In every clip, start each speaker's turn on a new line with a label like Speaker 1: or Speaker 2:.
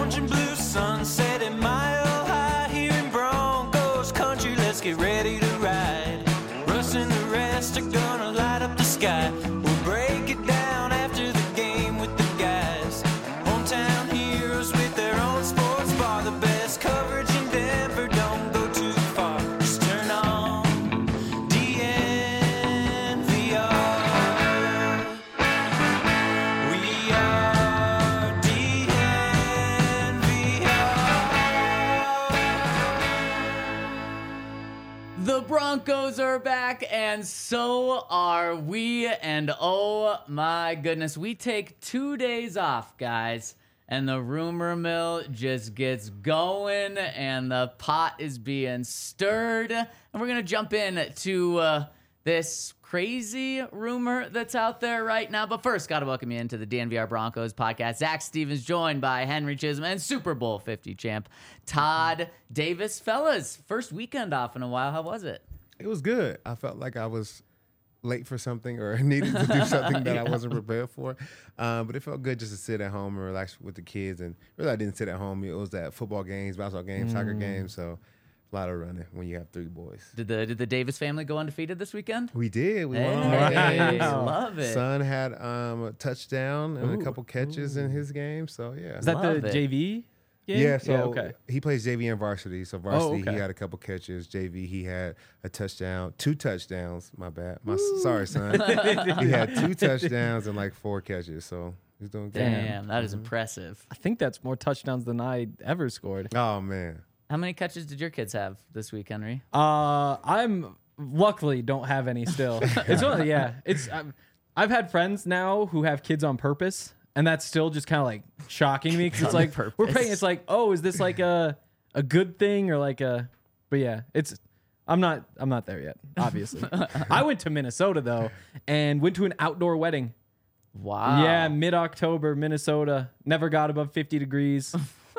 Speaker 1: orange and blue sunset at Mile High here in Broncos country. Let's get ready to ride. Russ and the rest are gonna light up the sky. We'll break it down after the game with the guys. Hometown heroes with their own sports bar. The best coverage in Denver, don't go too far. Just turn on DNVR. We are DNVR.
Speaker 2: The Broncos are back, and so are we. And oh my goodness, we take 2 days off, guys. And the rumor mill just gets going, and the pot is being stirred. And we're going to jump in to this crazy rumor that's out there right now. But first, got to welcome you into the DNVR Broncos podcast. Zach Stevens, joined by Henry Chisholm and Super Bowl 50 champ Todd Davis. Fellas, first weekend off in a while. How was it?
Speaker 3: It was good. I felt like I was late for something or needed to do something that I wasn't prepared for. But it felt good just to sit at home and relax with the kids. And really, I didn't sit at home. It was at football games, basketball games, soccer games. So a lot of running when you have 3 boys.
Speaker 2: Did the Davis family go undefeated this weekend?
Speaker 3: We did. We won all our
Speaker 2: Hey,
Speaker 3: games.
Speaker 2: love it.
Speaker 3: Son had a touchdown and a couple catches in his game. So, yeah.
Speaker 4: Is that
Speaker 2: Love
Speaker 4: the
Speaker 2: it.
Speaker 4: JV game?
Speaker 3: Yeah, so
Speaker 4: okay.
Speaker 3: he plays JV and varsity. So varsity,
Speaker 4: okay.
Speaker 3: he had a couple catches. JV, he had a touchdown, 2 touchdowns. My bad. Sorry, son. He had 2 touchdowns and like 4 catches. So he's doing good.
Speaker 2: Damn, that is impressive.
Speaker 4: I think that's more touchdowns than I ever scored.
Speaker 3: Oh man.
Speaker 2: How many catches did your kids have this week, Henry?
Speaker 4: I'm luckily don't have any still. It's only, it's I've had friends now who have kids on purpose, and that's still just kind of like shocking me because it's like we're
Speaker 2: purpose.
Speaker 4: paying. It's like, oh, is this like a good thing or like a? But yeah, it's. I'm not there yet. Obviously, I went to Minnesota though, and went to an outdoor wedding.
Speaker 2: Wow.
Speaker 4: Yeah, mid-October, Minnesota. Never got above 50 degrees.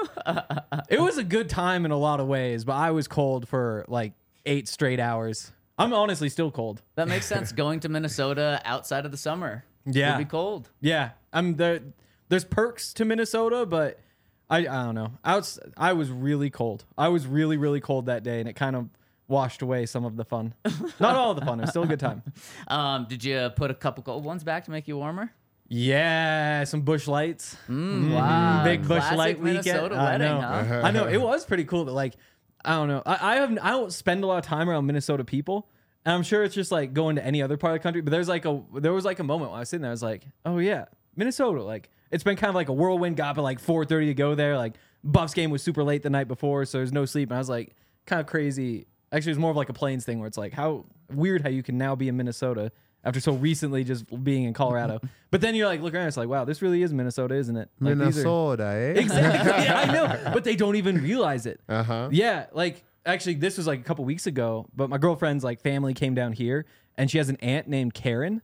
Speaker 4: It was a good time in a lot of ways, but I was cold for like 8 straight hours. I'm honestly still cold.
Speaker 2: That makes sense. Going to Minnesota outside of the summer.
Speaker 4: Yeah.
Speaker 2: Would be cold.
Speaker 4: Yeah, I'm there. There's perks to Minnesota, but I don't know. I was really cold. I was really, really cold that day, and it kind of washed away some of the fun. Not all of the fun. It was still a good time.
Speaker 2: Did you put a couple cold ones back to make you warmer?
Speaker 4: Yeah, some Busch Lights.
Speaker 2: Wow.
Speaker 4: Big Busch
Speaker 2: Classic
Speaker 4: Light weekend.
Speaker 2: Minnesota
Speaker 4: I
Speaker 2: wedding,
Speaker 4: know.
Speaker 2: huh?
Speaker 4: I know. It was pretty cool. But like, I don't know. I don't spend a lot of time around Minnesota people, and I'm sure it's just like going to any other part of the country. But there was like a moment when I was sitting there. I was like, oh yeah, Minnesota. Like it's been kind of like a whirlwind. Got up at like 4:30 to go there. Like Buffs game was super late the night before, so there's no sleep. And I was like, kind of crazy. Actually, it's more of like a Plains thing where it's like how weird how you can now be in Minnesota after so recently just being in Colorado. But then you're like, look around, it's like, wow, this really is Minnesota, isn't it? Like,
Speaker 3: Minnesota, eh?
Speaker 4: Exactly. Yeah, I know. But they don't even realize it.
Speaker 3: Uh-huh.
Speaker 4: Yeah, like actually this was like a couple weeks ago, but my girlfriend's like family came down here and she has an aunt named Karen.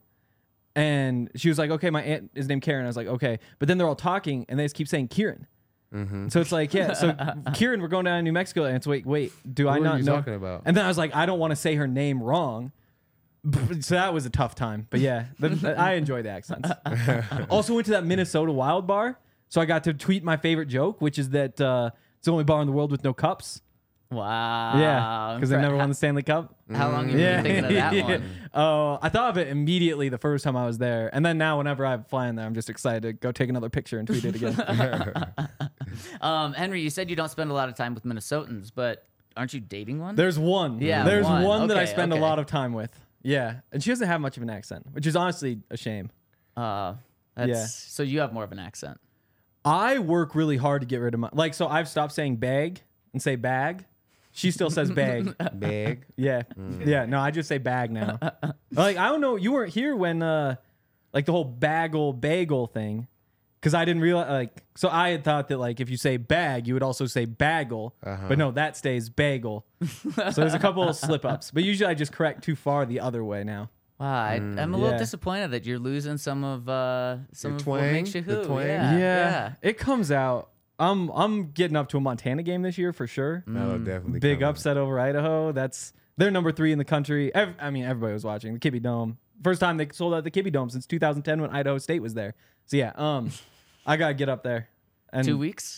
Speaker 4: And she was like, okay, my aunt is named Karen. I was like, okay. But then they're all talking and they just keep saying Kieran. So it's like, yeah, so Kieran, we're going down to New Mexico. And it's wait, do I
Speaker 3: Who are
Speaker 4: not
Speaker 3: you
Speaker 4: know?
Speaker 3: talking about?
Speaker 4: And then I was like, I don't want to say her name wrong. So that was a tough time. But yeah, I enjoy the accents. Also went to that Minnesota Wild Bar. So I got to tweet my favorite joke, which is that it's the only bar in the world with no cups.
Speaker 2: Wow.
Speaker 4: Yeah, because they never won the Stanley Cup.
Speaker 2: How long have you been thinking of that one?
Speaker 4: Oh, I thought of it immediately the first time I was there. And then now whenever I'm flying there, I'm just excited to go take another picture and tweet it again.
Speaker 2: Henry, you said you don't spend a lot of time with Minnesotans, but aren't you dating one?
Speaker 4: There's one.
Speaker 2: Yeah,
Speaker 4: There's
Speaker 2: one.
Speaker 4: one that I
Speaker 2: Okay,
Speaker 4: spend
Speaker 2: okay.
Speaker 4: a lot of time with. Yeah. And she doesn't have much of an accent, which is honestly a shame. Yeah.
Speaker 2: So you have more of an accent.
Speaker 4: I work really hard to get rid of my, like, so I've stopped saying bag and say bag. She still says bag.
Speaker 3: Big.
Speaker 4: Yeah. Yeah. No, I just say bag now. Like, I don't know. You weren't here when, like, the whole bagel thing. Because I didn't realize, like, so I had thought that, like, if you say bag, you would also say bagel. But no, that stays bagel. So there's a couple of slip ups. But usually I just correct too far the other way now.
Speaker 2: Wow, I'm a little
Speaker 4: Yeah.
Speaker 2: disappointed that you're losing some of what
Speaker 3: twang?
Speaker 2: makes you
Speaker 3: The
Speaker 2: who.
Speaker 3: twang?
Speaker 2: Yeah.
Speaker 4: It comes out. I'm getting up to a Montana game this year for sure.
Speaker 3: That'll definitely
Speaker 4: Big
Speaker 3: come out.
Speaker 4: upset over Idaho. They're number 3 in the country. I mean, everybody was watching the Kibbe Dome. First time they sold out the Kibbe Dome since 2010 when Idaho State was there. So yeah, I gotta get up there. And
Speaker 2: 2 weeks.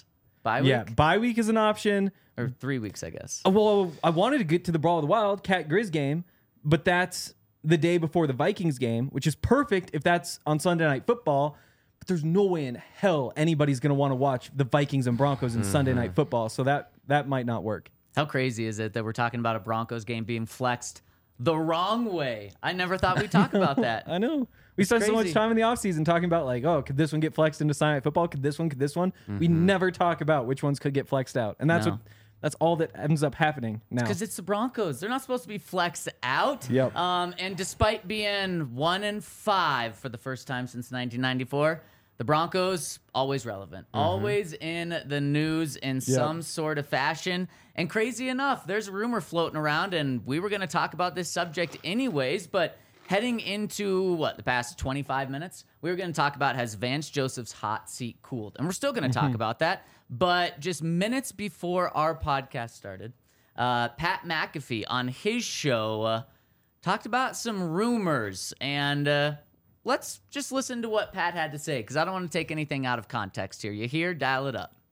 Speaker 2: Bye week?
Speaker 4: Yeah, bye week is an option.
Speaker 2: Or 3 weeks, I guess.
Speaker 4: Well, I wanted to get to the Brawl of the Wild, Cat Grizz game, but that's the day before the Vikings game, which is perfect if that's on Sunday Night Football. But there's no way in hell anybody's going to want to watch the Vikings and Broncos in Sunday Night Football, so that might not work.
Speaker 2: How crazy is it that we're talking about a Broncos game being flexed the wrong way? I never thought we'd talk about that.
Speaker 4: I know. We spent so much
Speaker 2: crazy.
Speaker 4: time in the offseason talking about, like, oh, could this one get flexed into Sunday Night Football? Could this one? Could this one? We never talk about which ones could get flexed out. And that's
Speaker 2: No.
Speaker 4: that's all that ends up happening now.
Speaker 2: Because it's the Broncos. They're not supposed to be flexed out.
Speaker 4: Yep.
Speaker 2: And despite being 1-5 for the first time since 1994, the Broncos always relevant, always in the news in some sort of fashion. And crazy enough, there's a rumor floating around, and we were going to talk about this subject anyways, but heading into the past 25 minutes, we were going to talk about has Vance Joseph's hot seat cooled, and we're still going to talk about that. But just minutes before our podcast started, Pat McAfee on his show talked about some rumors, and let's just listen to what Pat had to say, because I don't want to take anything out of context here. You hear? Dial it up.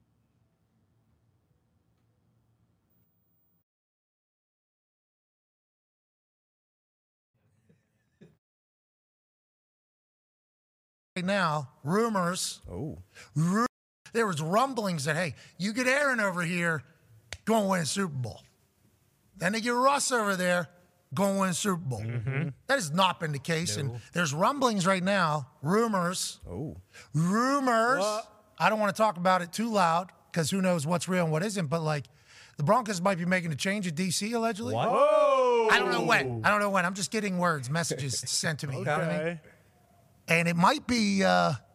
Speaker 5: Right now, rumors. There was rumblings that, hey, you get Aaron over here, going to win a Super Bowl. Then they get Russ over there, going to win a Super Bowl. That has not been the case. And there's rumblings right now, rumors. Rumors. I don't want to talk about it too loud because who knows what's real and what isn't. But, like, the Broncos might be making a change at D.C., allegedly.
Speaker 6: What?
Speaker 5: I don't know when. I'm just getting messages sent to me. You know what I mean? And it might be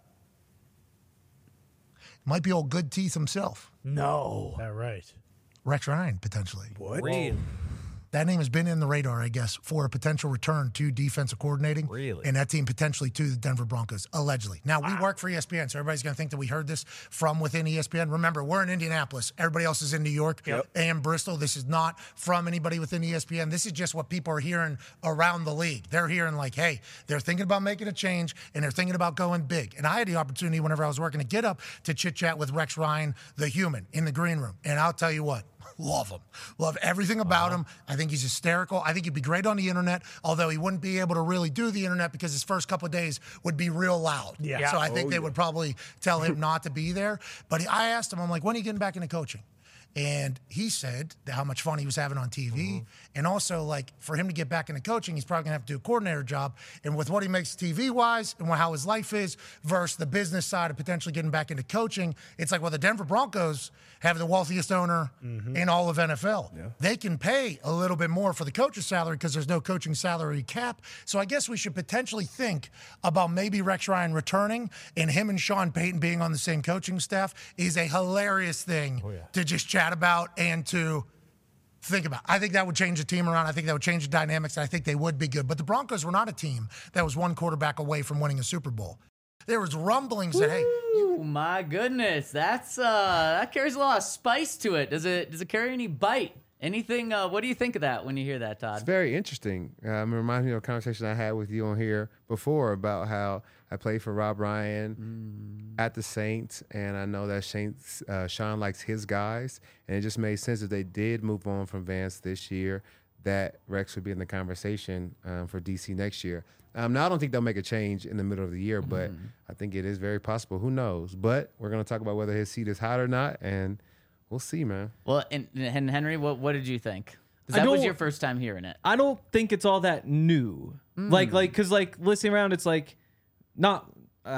Speaker 5: old Good Teeth himself.
Speaker 6: No. That right.
Speaker 5: Rex Ryan, potentially.
Speaker 6: What?
Speaker 5: That name has been in the radar, I guess, for a potential return to defensive coordinating.
Speaker 6: Really?
Speaker 5: And that team potentially to the Denver Broncos, allegedly. Now, we work for ESPN, so everybody's going to think that we heard this from within ESPN. Remember, we're in Indianapolis. Everybody else is in New York and Bristol. This is not from anybody within ESPN. This is just what people are hearing around the league. They're hearing like, hey, they're thinking about making a change, and they're thinking about going big. And I had the opportunity whenever I was working to get up to chit-chat with Rex Ryan, the human, in the green room. And I'll tell you what. Love him. Love everything about him. I think he's hysterical. I think he'd be great on the internet, although he wouldn't be able to really do the internet because his first couple of days would be real loud.
Speaker 6: Yeah.
Speaker 5: So I think they would probably tell him not to be there. But I asked him, I'm like, when are you getting back into coaching? And he said how much fun he was having on TV. And also, like, for him to get back into coaching, he's probably going to have to do a coordinator job. And with what he makes TV-wise and how his life is versus the business side of potentially getting back into coaching, it's like, well, the Denver Broncos have the wealthiest owner in all of NFL. Yeah. They can pay a little bit more for the coach's salary because there's no coaching salary cap. So I guess we should potentially think about maybe Rex Ryan returning, and him and Sean Payton being on the same coaching staff is a hilarious thing to just chat about and to think about. I think that would change the team around. I think that would change the dynamics, and I think they would be good. But the Broncos were not a team that was one quarterback away from winning a Super Bowl. There was rumblings that, hey,
Speaker 2: Oh my goodness, that carries a lot of spice to it. Does it carry any bite? Anything? What do you think of that when you hear that, Todd?
Speaker 3: It's very interesting. It reminds me of a conversation I had with you on here before about how I played for Rob Ryan at the Saints, and I know that Sean likes his guys, and it just made sense if they did move on from Vance this year, that Rex would be in the conversation for DC next year. Now, I don't think they'll make a change in the middle of the year, but I think it is very possible. Who knows? But we're going to talk about whether his seat is hot or not, and we'll see, man.
Speaker 2: Well, and Henry, what did you think? Because that was your first time hearing it.
Speaker 4: I don't think it's all that new. Because listening around, it's like not.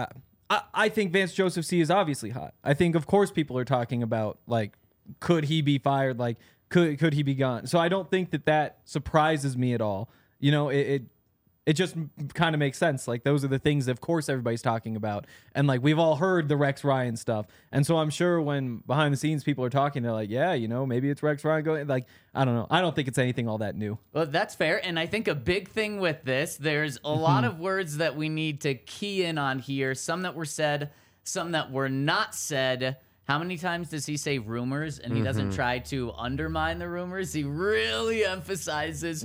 Speaker 4: I think Vance Joseph C is obviously hot. I think, of course, people are talking about, like, could he be fired? Like, could he be gone? So I don't think that surprises me at all. You know, it just kind of makes sense. Like, those are the things that, of course, everybody's talking about. And, like, we've all heard the Rex Ryan stuff. And so I'm sure when behind the scenes people are talking, they're like, yeah, you know, maybe it's Rex Ryan going. Like, I don't know. I don't think it's anything all that new.
Speaker 2: Well, that's fair. And I think a big thing with this, there's a lot of words that we need to key in on here. Some that were said, some that were not said. How many times does he say rumors and he doesn't try to undermine the rumors? He really emphasizes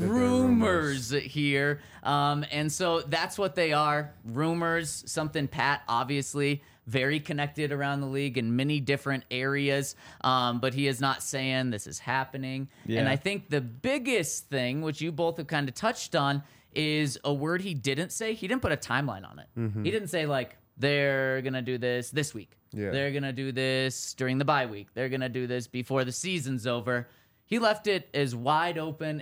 Speaker 2: rumors here. And so that's what they are, rumors, something Pat obviously very connected around the league in many different areas, but he is not saying this is happening.
Speaker 4: Yeah.
Speaker 2: And I think the biggest thing, which you both have kind of touched on, is a word he didn't say. He didn't put a timeline on it. He didn't say, like, they're going to do this week.
Speaker 3: Yeah.
Speaker 2: They're going to do this during the bye week. They're going to do this before the season's over. He left it as wide open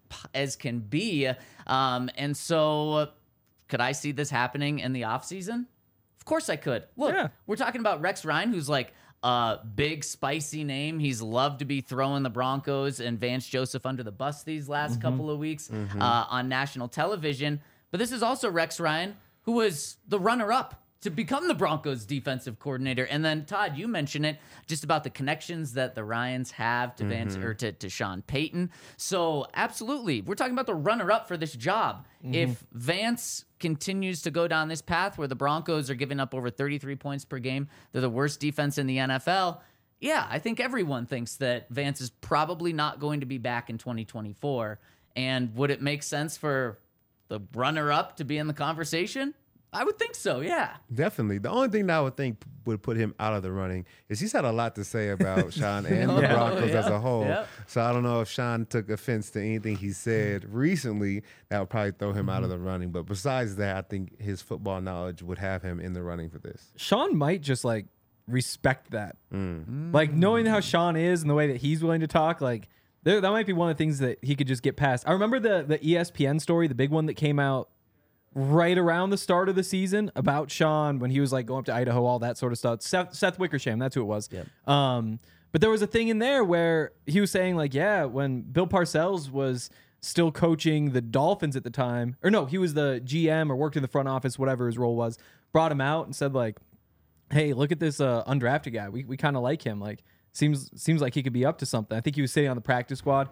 Speaker 2: as can be. And so could I see this happening in the offseason? Of course I could. Look,
Speaker 4: Yeah.
Speaker 2: we're talking about Rex Ryan, who's like a big, spicy name. He's loved to be throwing the Broncos and Vance Joseph under the bus these last couple of weeks on national television. But this is also Rex Ryan, who was the runner-up to become the Broncos defensive coordinator. And then, Todd, you mentioned it just about the connections that the Ryans have to Vance or to Sean Payton. So absolutely, we're talking about the runner-up for this job. If Vance continues to go down this path where the Broncos are giving up over 33 points per game, they're the worst defense in the NFL. Yeah, I think everyone thinks that Vance is probably not going to be back in 2024. And would it make sense for the runner-up to be in the conversation? I would think so, yeah.
Speaker 3: Definitely. The only thing that I would think would put him out of the running is he's had a lot to say about Sean and the Broncos as a whole.
Speaker 2: Yep.
Speaker 3: So I don't know if Sean took offense to anything he said recently that would probably throw him out of the running. But besides that, I think his football knowledge would have him in the running for this.
Speaker 4: Sean might just like respect that. Like knowing how Sean is and the way that he's willing to talk, like that might be one of the things that he could just get past. I remember the ESPN story, the big one that came out right around the start of the season about Sean when he was like going up to Idaho, all that sort of stuff. Seth Wickersham, that's who it was.
Speaker 2: Yep.
Speaker 4: But there was a thing in there where he was saying like, yeah, when Bill Parcells was still coaching the Dolphins at the time, or no, he was the GM or worked in the front office, whatever his role was, brought him out and said like, hey, look at this undrafted guy. We kind of like him. Like seems like he could be up to something. I think he was sitting on the practice squad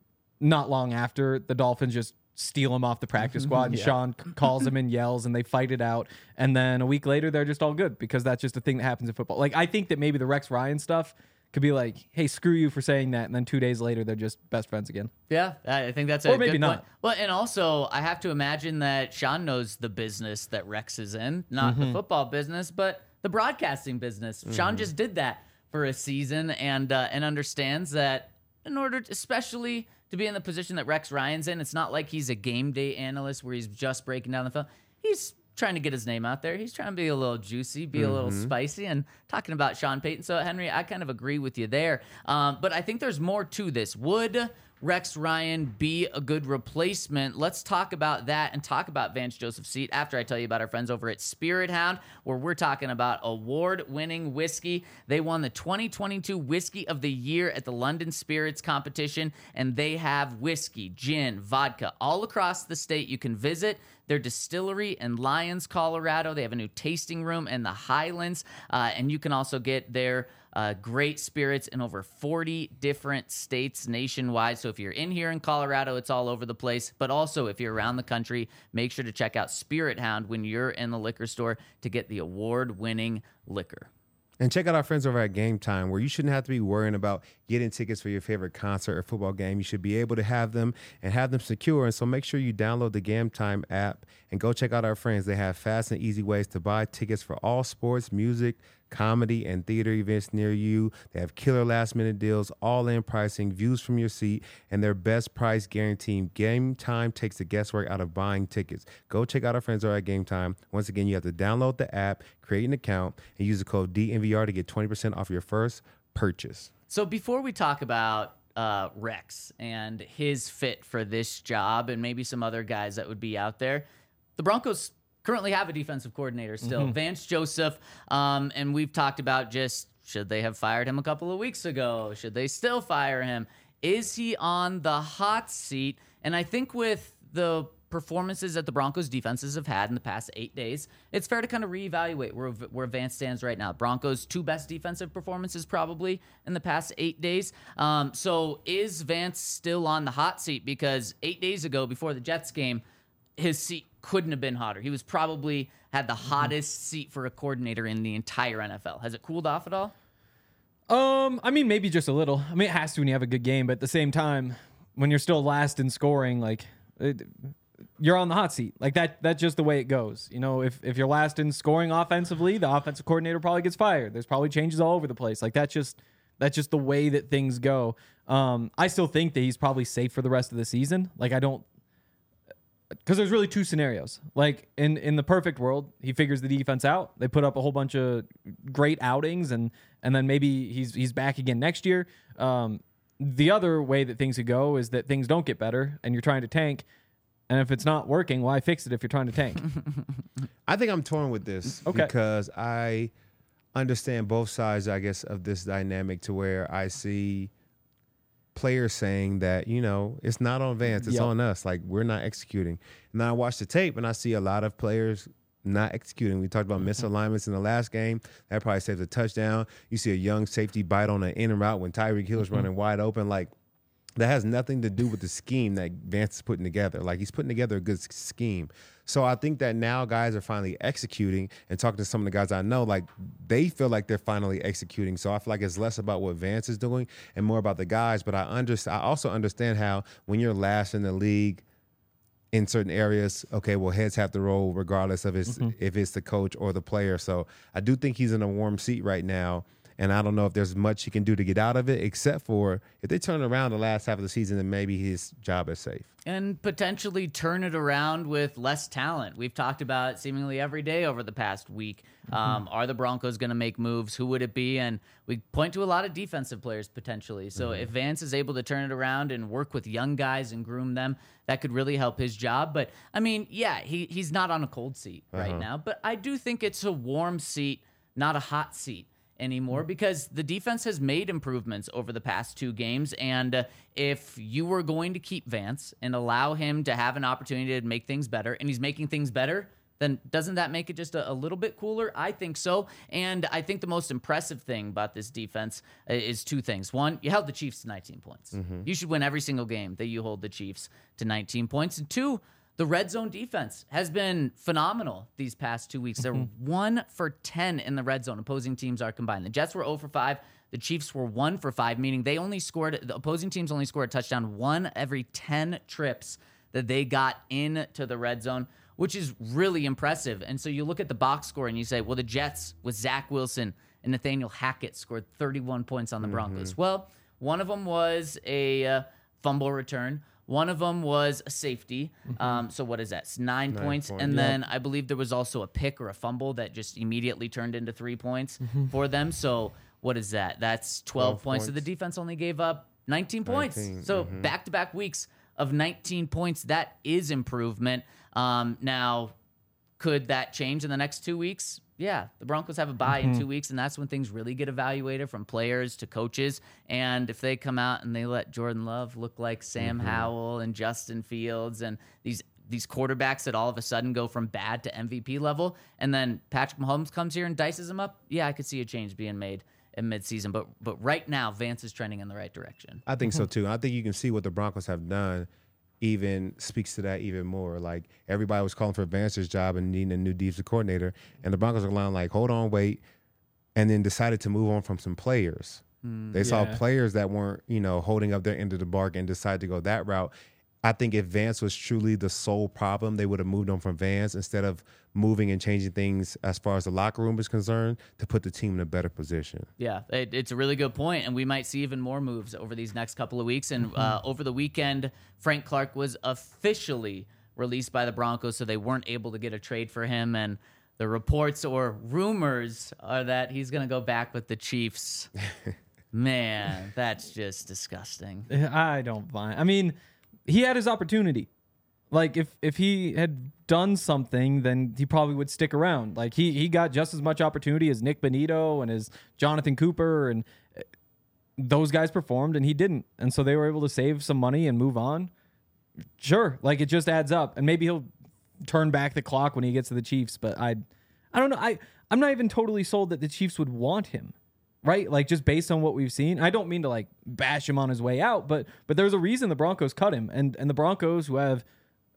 Speaker 4: not long after the Dolphins just steal him off the practice squad, and Sean calls him and yells, and they fight it out. And then a week later, they're just all good because that's just a thing that happens in football. Like, I think that maybe the Rex Ryan stuff could be like, hey, screw you for saying that. And then 2 days later, they're just best friends again.
Speaker 2: Yeah, I think that's a
Speaker 4: Or maybe
Speaker 2: good
Speaker 4: not.
Speaker 2: point. Well, and also, I have to imagine that Sean knows the business that Rex is in, not the football business, but the broadcasting business. Sean just did that for a season and understands that in order to, especially to be in the position that Rex Ryan's in, it's not like he's a game day analyst where he's just breaking down the film. He's trying to get his name out there. He's trying to be a little juicy, be a little spicy, and talking about Sean Payton. So, Henry, I kind of agree with you there. But I think there's more to this. Would Rex Ryan be a good replacement? Let's talk about that and talk about Vance Joseph's seat after I tell you about our friends over at Spirit Hound, where we're talking about award-winning whiskey. They won the 2022 Whiskey of the Year at the London Spirits competition, and they have whiskey, gin, vodka all across the state. You can visit their distillery in Lyons, Colorado. They have a new tasting room in the Highlands, and you can also get their great spirits in over 40 different states nationwide. So if you're in here in Colorado, it's all over the place. But also, if you're around the country, make sure to check out Spirit Hound when you're in the liquor store to get the award-winning liquor.
Speaker 3: And check out our friends over at Game Time, where you shouldn't have to be worrying about getting tickets for your favorite concert or football game. You should be able to have them and have them secure. And so make sure you download the Game Time app and go check out our friends. They have fast and easy ways to buy tickets for all sports, music, comedy, and theater events near you. They have killer last-minute deals, all-in pricing, views from your seat, and their best price guarantee. Game Time takes the guesswork out of buying tickets. Go check out our friends over at Game Time. Once again, you have to download the app, create an account, and use the code DNVR to get 20% off your first purchase.
Speaker 2: So before we talk about Rex and his fit for this job and maybe some other guys that would be out there, the Broncos currently have a defensive coordinator still, Vance Joseph, and we've talked about just should they have fired him a couple of weeks ago? Should they still fire him? Is he on the hot seat? And I think with the performances that the Broncos defenses have had in the past 8 days, it's fair to kind of reevaluate where Vance stands right now. Broncos' two best defensive performances probably in the past 8 days. So is Vance still on the hot seat? Because 8 days ago, before the Jets game, his seat couldn't have been hotter. He was probably had the hottest seat for a coordinator in the entire NFL. Has it cooled off at all?
Speaker 4: I mean, maybe just a little. I mean, it has to when you have a good game, but at the same time, when you're still last in scoring, like you're on the hot seat. Like that's just the way it goes. You know, if you're last in scoring offensively, the offensive coordinator probably gets fired. There's probably changes all over the place. Like that's just the way that things go. I still think that he's probably safe for the rest of the season. Like because there's really two scenarios. Like in the perfect world, he figures the defense out. They put up a whole bunch of great outings, and then maybe he's back again next year. The other way that things could go is that things don't get better, and you're trying to tank. And if it's not working, why fix it if you're trying to tank?
Speaker 3: I think I'm torn with this because I understand both sides, I guess, of this dynamic to where I see players saying that, it's not on Vance, it's on us. Like, we're not executing. And then I watch the tape and I see a lot of players not executing. We talked about misalignments in the last game. That probably saves a touchdown. You see a young safety bite on an in and route when Tyreek Hill's running wide open. Like, that has nothing to do with the scheme that Vance is putting together. Like, he's putting together a good scheme. So I think that now guys are finally executing, and talking to some of the guys I know, like, they feel like they're finally executing. So I feel like it's less about what Vance is doing and more about the guys. But I also understand how when you're last in the league in certain areas, okay, well, heads have to roll regardless of if it's the coach or the player. So I do think he's in a warm seat right now. And I don't know if there's much he can do to get out of it, except for if they turn around the last half of the season, then maybe his job is safe.
Speaker 2: And potentially turn it around with less talent. We've talked about it seemingly every day over the past week. Are the Broncos going to make moves? Who would it be? And we point to a lot of defensive players potentially. So if Vance is able to turn it around and work with young guys and groom them, that could really help his job. But, I mean, yeah, he's not on a cold seat right now. But I do think it's a warm seat, not a hot seat anymore, because the defense has made improvements over the past 2 games. And if you were going to keep Vance and allow him to have an opportunity to make things better, and he's making things better, then doesn't that make it just a little bit cooler? I think so. And I think the most impressive thing about this defense is 2 things. One, you held the Chiefs to 19 points. You should win every single game that you hold the Chiefs to 19 points. And 2, the red zone defense has been phenomenal these past 2 weeks. They're 1 for 10 in the red zone. Opposing teams are combined. The Jets were 0 for 5. The Chiefs were 1 for 5, meaning the opposing teams only scored a touchdown 1 every 10 trips that they got into the red zone, which is really impressive. And so you look at the box score and you say, well, the Jets with Zach Wilson and Nathaniel Hackett scored 31 points on the Broncos. Well, one of them was a fumble return. One of them was a safety. So what is that? It's 9 points. And then I believe there was also a pick or a fumble that just immediately turned into 3 points for them. So what is that? That's 12 points. So the defense only gave up 19 points. So back-to-back weeks of 19 points. That is improvement. Now, could that change in the next 2 weeks? Yeah, the Broncos have a bye in 2 weeks, and that's when things really get evaluated from players to coaches. And if they come out and they let Jordan Love look like Sam Howell and Justin Fields and these quarterbacks that all of a sudden go from bad to MVP level, and then Patrick Mahomes comes here and dices them up, yeah, I could see a change being made in midseason. But right now, Vance is trending in the right direction.
Speaker 3: I think so, too. I think you can see what the Broncos have done even speaks to that even more. Like, everybody was calling for Vance's job and needing a new defensive coordinator, and the Broncos are lying like, hold on, wait, and then decided to move on from some players. They saw players that weren't, holding up their end of the bargain and decided to go that route. I think if Vance was truly the sole problem, they would have moved on from Vance instead of moving and changing things as far as the locker room is concerned to put the team in a better position.
Speaker 2: Yeah, it's a really good point, and we might see even more moves over these next couple of weeks. And over the weekend, Frank Clark was officially released by the Broncos, so they weren't able to get a trade for him. And the reports or rumors are that he's going to go back with the Chiefs. Man, that's just disgusting.
Speaker 4: I don't mind. I mean, he had his opportunity. Like, if he had done something, then he probably would stick around. Like, he got just as much opportunity as Nick Bonito and as Jonathan Cooper, and those guys performed and he didn't. And so they were able to save some money and move on. Sure, like, it just adds up. And maybe he'll turn back the clock when he gets to the Chiefs, but I don't know. I'm not even totally sold that the Chiefs would want him. Right? Like, just based on what we've seen. I don't mean to, like, bash him on his way out, but there's a reason the Broncos cut him. And the Broncos, who have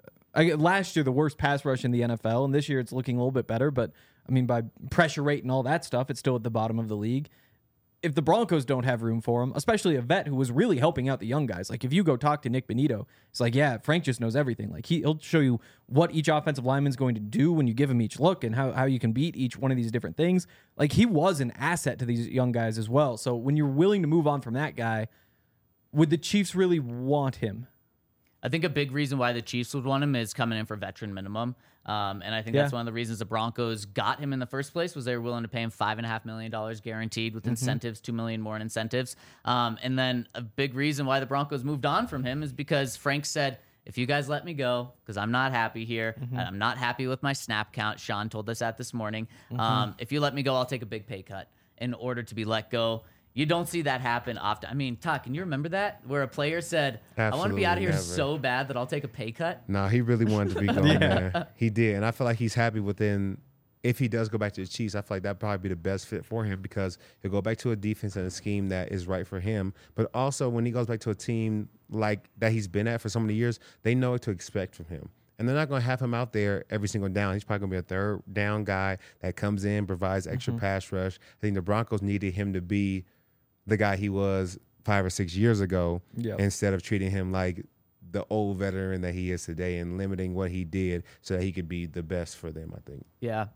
Speaker 4: last year the worst pass rush in the NFL, and this year it's looking a little bit better, but I mean, by pressure rate and all that stuff, it's still at the bottom of the league. if the Broncos don't have room for him, especially a vet who was really helping out the young guys, like if you go talk to Nick Benito, it's like, yeah, Frank just knows everything. Like he'll show you what each offensive lineman's going to do when you give him each look and how you can beat each one of these different things. Like he was an asset to these young guys as well. So when you're willing to move on from that guy, would the Chiefs really want him?
Speaker 2: I think a big reason why the Chiefs would want him is coming in for veteran minimum. And I think that's one of the reasons the Broncos got him in the first place was they were willing to pay him $5.5 million guaranteed with incentives, $2 million more in incentives. And then a big reason why the Broncos moved on from him is because Frank said, if you guys let me go, because I'm not happy here, and I'm not happy with my snap count. Sean told us that this morning. If you let me go, I'll take a big pay cut in order to be let go. You don't see that happen often. I mean, Todd, can you remember that? Where a player said, I want to be out of here so bad that I'll take a pay cut?
Speaker 3: No, he really wanted to be going there. He did. And I feel like he's happy within, if he does go back to the Chiefs, I feel like that'd probably be the best fit for him because he'll go back to a defense and a scheme that is right for him. But also when he goes back to a team like that he's been at for so many years, they know what to expect from him. And they're not going to have him out there every single down. He's probably going to be a third down guy that comes in, provides extra pass rush. I think the Broncos needed him to be the guy he was 5 or 6 years ago instead of treating him like the old veteran that he is today and limiting what he did so that he could be the best for them, I think.
Speaker 2: Yeah.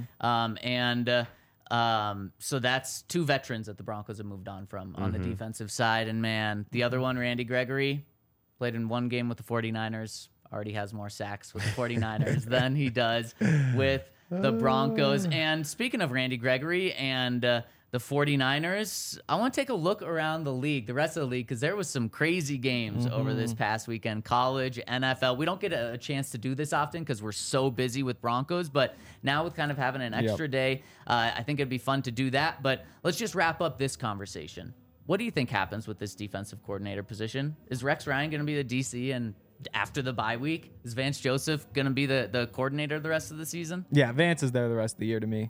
Speaker 2: So that's 2 veterans that the Broncos have moved on from on the defensive side. And, man, the other one, Randy Gregory, played in 1 game with the 49ers, already has more sacks with the 49ers than he does with the Broncos. And speaking of Randy Gregory and the 49ers, I want to take a look around the league, the rest of the league, because there was some crazy games over this past weekend. College, NFL. We don't get a chance to do this often because we're so busy with Broncos, but now with kind of having an extra day, I think it'd be fun to do that. But let's just wrap up this conversation. What do you think happens with this defensive coordinator position? Is Rex Ryan going to be the DC and after the bye week? Is Vance Joseph going to be the coordinator the rest of the season?
Speaker 4: Yeah, Vance is there the rest of the year to me.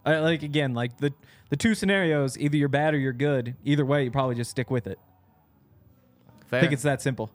Speaker 4: The 2 scenarios, either you're bad or you're good. Either way, you probably just stick with it.
Speaker 2: Fair.
Speaker 4: I think it's that simple.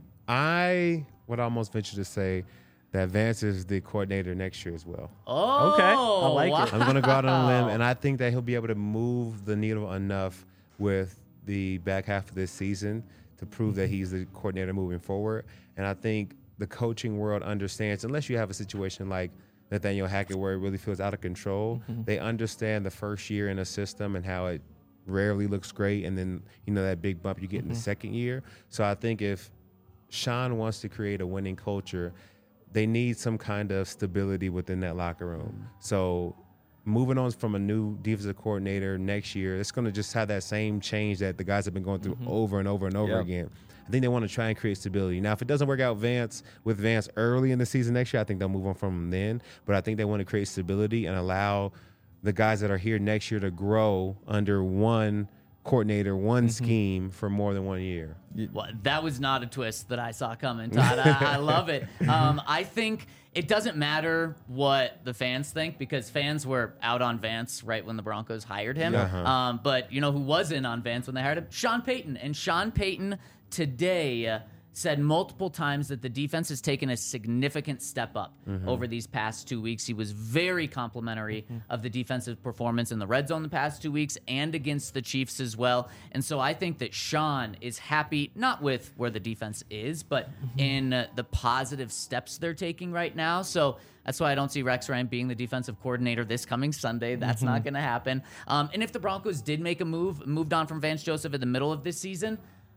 Speaker 3: I would almost venture to say that Vance is the coordinator next year as well.
Speaker 2: Oh,
Speaker 4: okay. I like it.
Speaker 3: I'm going to go out on a limb, and I think that he'll be able to move the needle enough with the back half of this season to prove that he's the coordinator moving forward. And I think the coaching world understands, unless you have a situation like Nathaniel Hackett where it really feels out of control, they understand the first year in a system and how it rarely looks great, and then, that big bump you get in the second year. So I think if Sean wants to create a winning culture, they need some kind of stability within that locker room. So moving on from a new defensive coordinator next year, it's going to just have that same change that the guys have been going through over and over and over again. I think they want to try and create stability. Now, if it doesn't work out with Vance early in the season next year, I think they'll move on from him then. But I think they want to create stability and allow the guys that are here next year to grow under one coordinator, one scheme for more than 1 year.
Speaker 2: Well, that was not a twist that I saw coming, Todd. I love it. I think it doesn't matter what the fans think because fans were out on Vance right when the Broncos hired him. But you know who was in on Vance when they hired him? Sean Payton. And Sean Payton today said multiple times that the defense has taken a significant step up over these past 2 weeks. He was very complimentary of the defensive performance in the red zone the past 2 weeks and against the Chiefs as well. And so I think that Sean is happy, not with where the defense is, but in the positive steps they're taking right now. So that's why I don't see Rex Ryan being the defensive coordinator this coming Sunday. That's not going to happen. And if the Broncos did make a moved on from Vance Joseph in the middle of this season,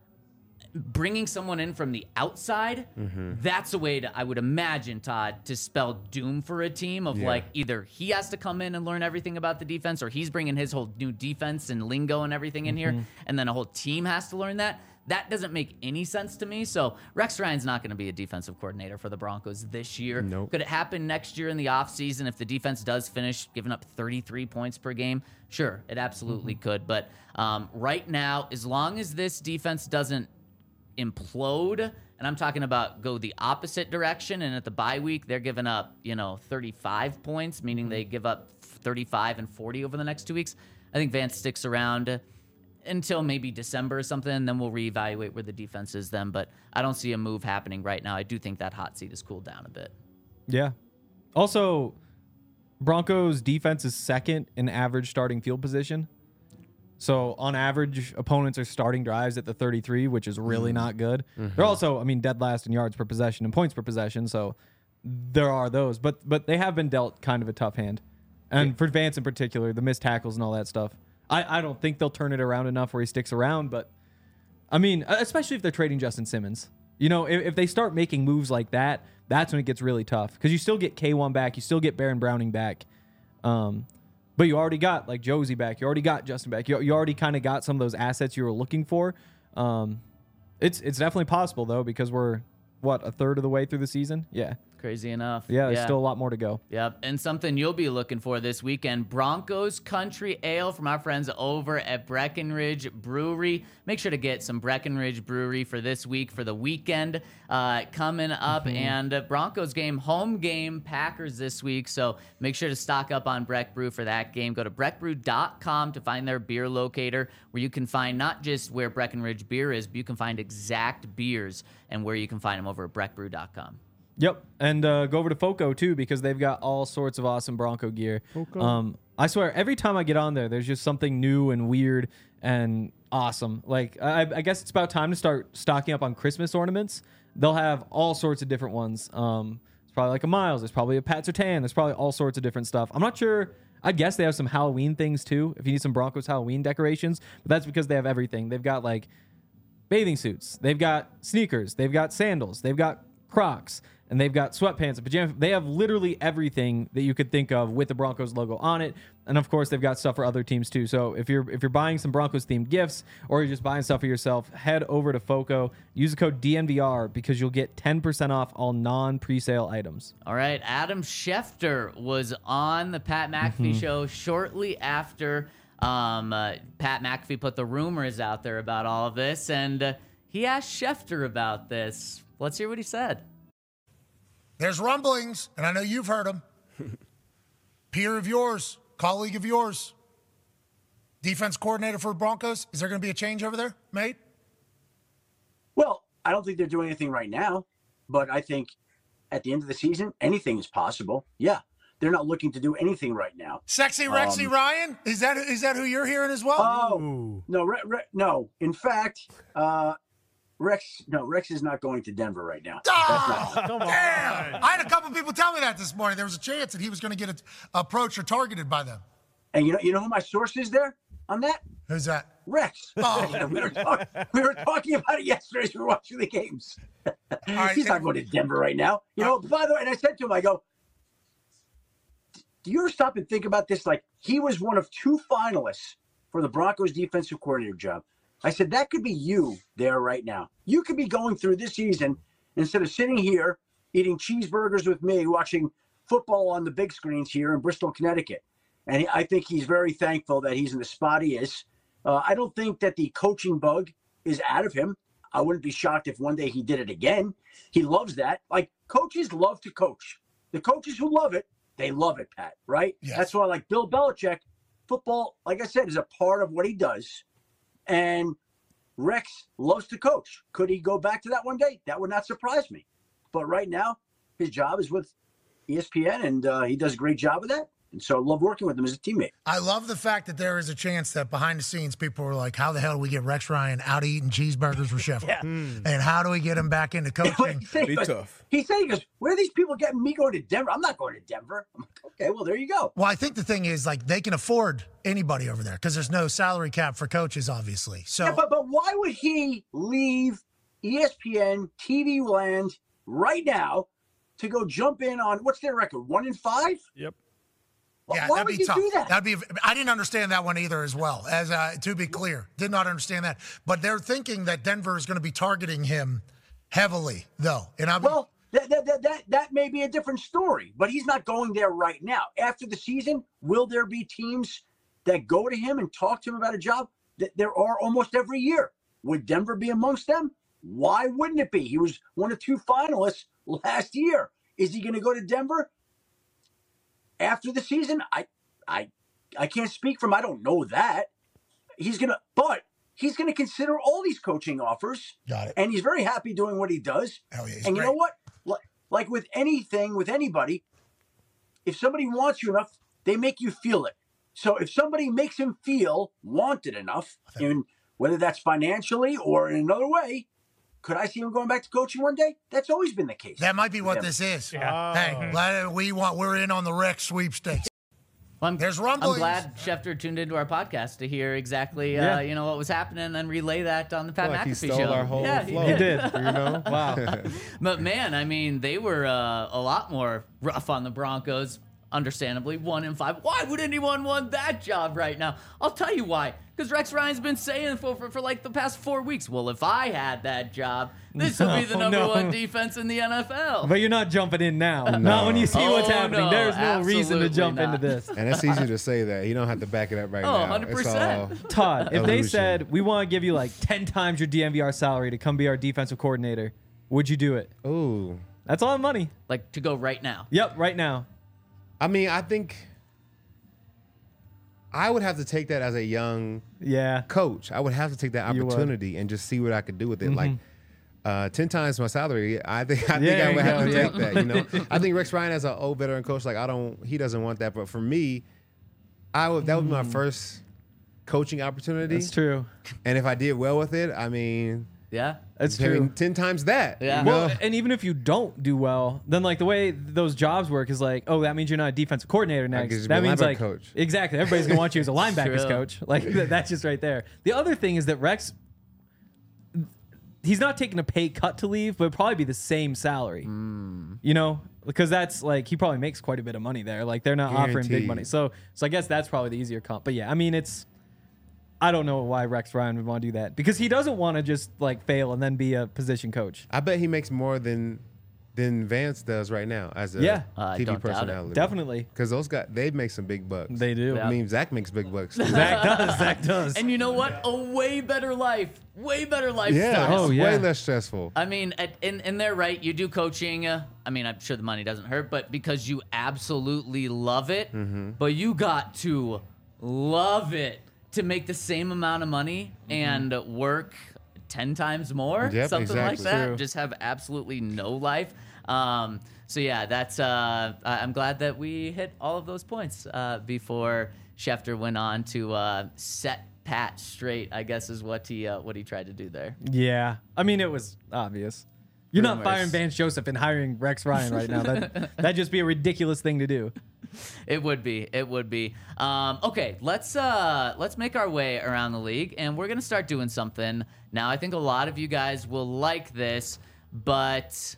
Speaker 2: bringing someone in from the outside, that's a way to, I would imagine, Todd, to spell doom for a team of like either he has to come in and learn everything about the defense or he's bringing his whole new defense and lingo and everything in here, and then a whole team has to learn that. That doesn't make any sense to me. So Rex Ryan's not going to be a defensive coordinator for the Broncos this year.
Speaker 3: Nope.
Speaker 2: Could it happen next year in the offseason if the defense does finish giving up 33 points per game? Sure, it absolutely could. But right now, as long as this defense doesn't implode, and I'm talking about go the opposite direction, and at the bye week they're giving up 35 points, meaning they give up 35 and 40 over the next 2 weeks. I think Vance sticks around until maybe December or something, and then we'll reevaluate where the defense is then, but I don't see a move happening right now. I do think that hot seat has cooled down a bit.
Speaker 4: Yeah. Also, Broncos defense is second in average starting field position. So on average, opponents are starting drives at the 33, which is really not good. They're also, dead last in yards per possession and points per possession. So there are those, but they have been dealt kind of a tough hand. And for Vance in particular, the missed tackles and all that stuff, I don't think they'll turn it around enough where he sticks around. But especially if they're trading Justin Simmons, if they start making moves like that, that's when it gets really tough because you still get K1 back, you still get Baron Browning back. But you already got like Josie back. You already got Justin back. You already kind of got some of those assets you were looking for. It's definitely possible though because we're a third of the way through the season. Yeah,
Speaker 2: Crazy enough.
Speaker 4: yeah. There's still a lot more to go.
Speaker 2: Yep. And something you'll be looking for this weekend, Broncos Country Ale from our friends over at Breckenridge Brewery. Make sure to get some Breckenridge Brewery for this week, for the weekend coming up. And Broncos game, home game, Packers this week. So make sure to stock up on Breck Brew for that game. Go to breckbrew.com to find their beer locator where you can find not just where Breckenridge beer is, but you can find exact beers and where you can find them over at breckbrew.com.
Speaker 4: Yep, and go over to Foco too because they've got all sorts of awesome Bronco gear. I swear, every time I get on there, there's just something new and weird and awesome. Like I guess it's about time to start stocking up on Christmas ornaments. They'll have all sorts of different ones. It's probably like a Miles. There's probably a Pat Surtain. There's probably all sorts of different stuff. I'm not sure. I guess they have some Halloween things too. If you need some Broncos Halloween decorations, but that's because they have everything. They've got like bathing suits. They've got sneakers. They've got sandals. They've got Crocs. And they've got sweatpants and pajamas. They have literally everything that you could think of with the Broncos logo on it. And of course, they've got stuff for other teams too. So if you're buying some Broncos themed gifts or you're just buying stuff for yourself, head over to Foco. Use the code DNVR because you'll get 10% off all non-presale items.
Speaker 2: All right, Adam Schefter was on the Pat McAfee show shortly after Pat McAfee put the rumors out there about all of this, and he asked Schefter about this. Let's hear what he said.
Speaker 5: There's rumblings, and I know you've heard them. Peer of yours, colleague of yours, defense coordinator for Broncos. Is there going to be a change over there, mate?
Speaker 6: Well, I don't think they're doing anything right now, but I think at the end of the season, anything is possible. Yeah, they're not looking to do anything right now.
Speaker 5: Sexy Rexy Ryan? Is that who you're hearing as well?
Speaker 6: Oh, no, no. In fact, Rex is not going to Denver right now.
Speaker 5: Come on. Damn. I had a couple people tell me that this morning. There was a chance that he was going to get approached or targeted by them.
Speaker 6: And you know who my source is there on that?
Speaker 5: Who's that?
Speaker 6: Rex.
Speaker 5: Oh.
Speaker 6: we were talking about it yesterday as we were watching the games.
Speaker 5: Right,
Speaker 6: he's not going to Denver right now. By the way, and I said to him, I go, do you ever stop and think about this? Like, he was one of 2 finalists for the Broncos defensive coordinator job. I said, that could be you there right now. You could be going through this season instead of sitting here eating cheeseburgers with me, watching football on the big screens here in Bristol, Connecticut. And I think he's very thankful that he's in the spot he is. I don't think that the coaching bug is out of him. I wouldn't be shocked if one day he did it again. He loves that. Like, coaches love to coach. The coaches who love it, they love it, Pat, right?
Speaker 5: Yes.
Speaker 6: That's why, like Bill Belichick, football, like I said, is a part of what he does. And Rex loves to coach. Could he go back to that one day? That would not surprise me. But right now, his job is with ESPN, and he does a great job with that. And so I love working with him as a teammate.
Speaker 5: I love the fact that there is a chance that behind the scenes, people were like, how the hell do we get Rex Ryan out eating cheeseburgers with Sheffield? And how do we get him back into coaching?
Speaker 6: Be tough. He goes, where are these people getting me going to Denver? I'm not going to Denver. I'm like, okay, well, there you go.
Speaker 5: Well, I think the thing is, like, they can afford anybody over there because there's no salary cap for coaches, obviously. So,
Speaker 6: yeah, but why would he leave ESPN, TV land right now to go jump in on, what's their record, 1-5?
Speaker 7: Yep.
Speaker 5: Yeah,
Speaker 6: why
Speaker 5: that'd
Speaker 6: would
Speaker 5: be
Speaker 6: you
Speaker 5: tough.
Speaker 6: do that?
Speaker 5: I didn't understand that one either as well. As to be clear, did not understand that. But they're thinking that Denver is going to be targeting him heavily, though. And
Speaker 6: that may be a different story, but he's not going there right now. After the season, will there be teams that go to him and talk to him about a job? There are almost every year. Would Denver be amongst them? Why wouldn't it be? He was one of 2 finalists last year. Is he going to go to Denver? After the season, I can't speak for him. I don't know that. But he's gonna consider all these coaching offers.
Speaker 5: Got it.
Speaker 6: And he's very happy doing what he does.
Speaker 5: Hell yeah, he's
Speaker 6: and
Speaker 5: great.
Speaker 6: You know what? Like with anything, with anybody, if somebody wants you enough, they make you feel it. So if somebody makes him feel wanted enough, and whether that's financially or in another way, could I see him going back to coaching one day? That's always been the case.
Speaker 5: That might be what this is. Hey, we're in on the Rex sweepstakes.
Speaker 2: Well,
Speaker 5: There's
Speaker 2: I'm
Speaker 5: rumblings.
Speaker 2: glad Schefter tuned into our podcast to hear exactly
Speaker 4: Yeah.
Speaker 2: What was happening and then relay that on the Pat
Speaker 3: Like he
Speaker 2: McAfee
Speaker 3: stole
Speaker 2: show.
Speaker 3: our whole
Speaker 2: yeah,
Speaker 3: flow.
Speaker 2: he
Speaker 4: He did.
Speaker 3: You know?
Speaker 4: Wow.
Speaker 2: But man, I mean, they were a lot more rough on the Broncos. Understandably, 1-5. Why would anyone want that job right now? I'll tell you why. Because Rex Ryan's been saying for like the past 4 weeks, well, if I had that job, this would be the number
Speaker 4: No.
Speaker 2: one defense in the NFL.
Speaker 4: But you're not jumping in now. Not when you see what's
Speaker 2: Oh,
Speaker 4: happening.
Speaker 2: no,
Speaker 4: There's no reason to
Speaker 2: absolutely
Speaker 4: jump
Speaker 2: not.
Speaker 4: into this.
Speaker 3: And it's easy to say that. You don't have to back it up right
Speaker 2: Oh,
Speaker 3: now.
Speaker 2: 100%.
Speaker 3: It's all
Speaker 4: Todd, if they
Speaker 3: illusion.
Speaker 4: said, we want to give you like 10 times your DMVR salary to come be our defensive coordinator, would you do it?
Speaker 3: Ooh.
Speaker 4: That's a lot of money.
Speaker 2: Like, to go right now.
Speaker 4: Yep, right now.
Speaker 3: I mean, I think I would have to take that as a young
Speaker 4: Yeah.
Speaker 3: coach. I would have to take that
Speaker 4: You would.
Speaker 3: opportunity and just see what I could do with it. Like 10 times my salary. I think I
Speaker 4: There you
Speaker 3: would have
Speaker 4: go,
Speaker 3: to
Speaker 4: yeah.
Speaker 3: take that. You know, I think Rex Ryan as an old veteran coach, like he doesn't want that. But for me, that would be my first coaching opportunity.
Speaker 4: That's true.
Speaker 3: And if I did well with it, I mean,
Speaker 2: Yeah?
Speaker 4: That's
Speaker 3: I mean,
Speaker 4: true.
Speaker 3: 10 times that.
Speaker 2: Yeah.
Speaker 3: You know?
Speaker 4: Well, and even if you don't do well, then like the way those jobs work is like, oh, that means you're not a defensive coordinator
Speaker 3: could
Speaker 4: next.
Speaker 3: just be
Speaker 4: That
Speaker 3: a
Speaker 4: means
Speaker 3: linebacker
Speaker 4: like
Speaker 3: coach.
Speaker 4: exactly everybody's gonna want you as a linebackers
Speaker 2: True.
Speaker 4: coach. Like that's just right there. The other thing is that Rex, he's not taking a pay cut to leave, but it'd probably be the same salary. You know, because that's like he probably makes quite a bit of money there. Like they're not offering big
Speaker 3: Guaranteed.
Speaker 4: money, so I guess that's probably the easier comp. But yeah, I mean I don't know why Rex Ryan would want to do that because he doesn't want to just like fail and then be a position coach.
Speaker 3: I bet he makes more than Vance does right now as a
Speaker 4: Yeah.
Speaker 2: I
Speaker 3: TV
Speaker 2: don't doubt it.
Speaker 3: personality.
Speaker 4: Definitely,
Speaker 3: Because those guys, they make some big bucks.
Speaker 4: they do.
Speaker 2: Yeah.
Speaker 3: I mean, Zach makes big bucks. too.
Speaker 4: Zach does.
Speaker 2: And you know what? A way better life. Way better
Speaker 3: Yeah,
Speaker 2: lifestyle.
Speaker 4: Oh,
Speaker 3: it's
Speaker 4: yeah.
Speaker 3: way less stressful.
Speaker 2: I mean, in there, right? You do coaching. I mean, I'm sure the money doesn't hurt, but because you absolutely love it,
Speaker 3: Mm-hmm.
Speaker 2: but you got to love it to make the same amount of money and work 10 times more,
Speaker 3: Yep,
Speaker 2: something like
Speaker 3: exactly.
Speaker 2: that.
Speaker 4: True.
Speaker 2: Just have absolutely no life. So yeah, that's. I'm glad that we hit all of those points before Schefter went on to set Pat straight. I guess is what he tried to do there.
Speaker 4: Yeah, I mean it was obvious. You're not
Speaker 2: Rumors.
Speaker 4: firing Vance Joseph and hiring Rex Ryan right now. That'd just be a ridiculous thing to do.
Speaker 2: It would be. It would be. Okay, let's make our way around the league, and we're gonna start doing something now. I think a lot of you guys will like this, but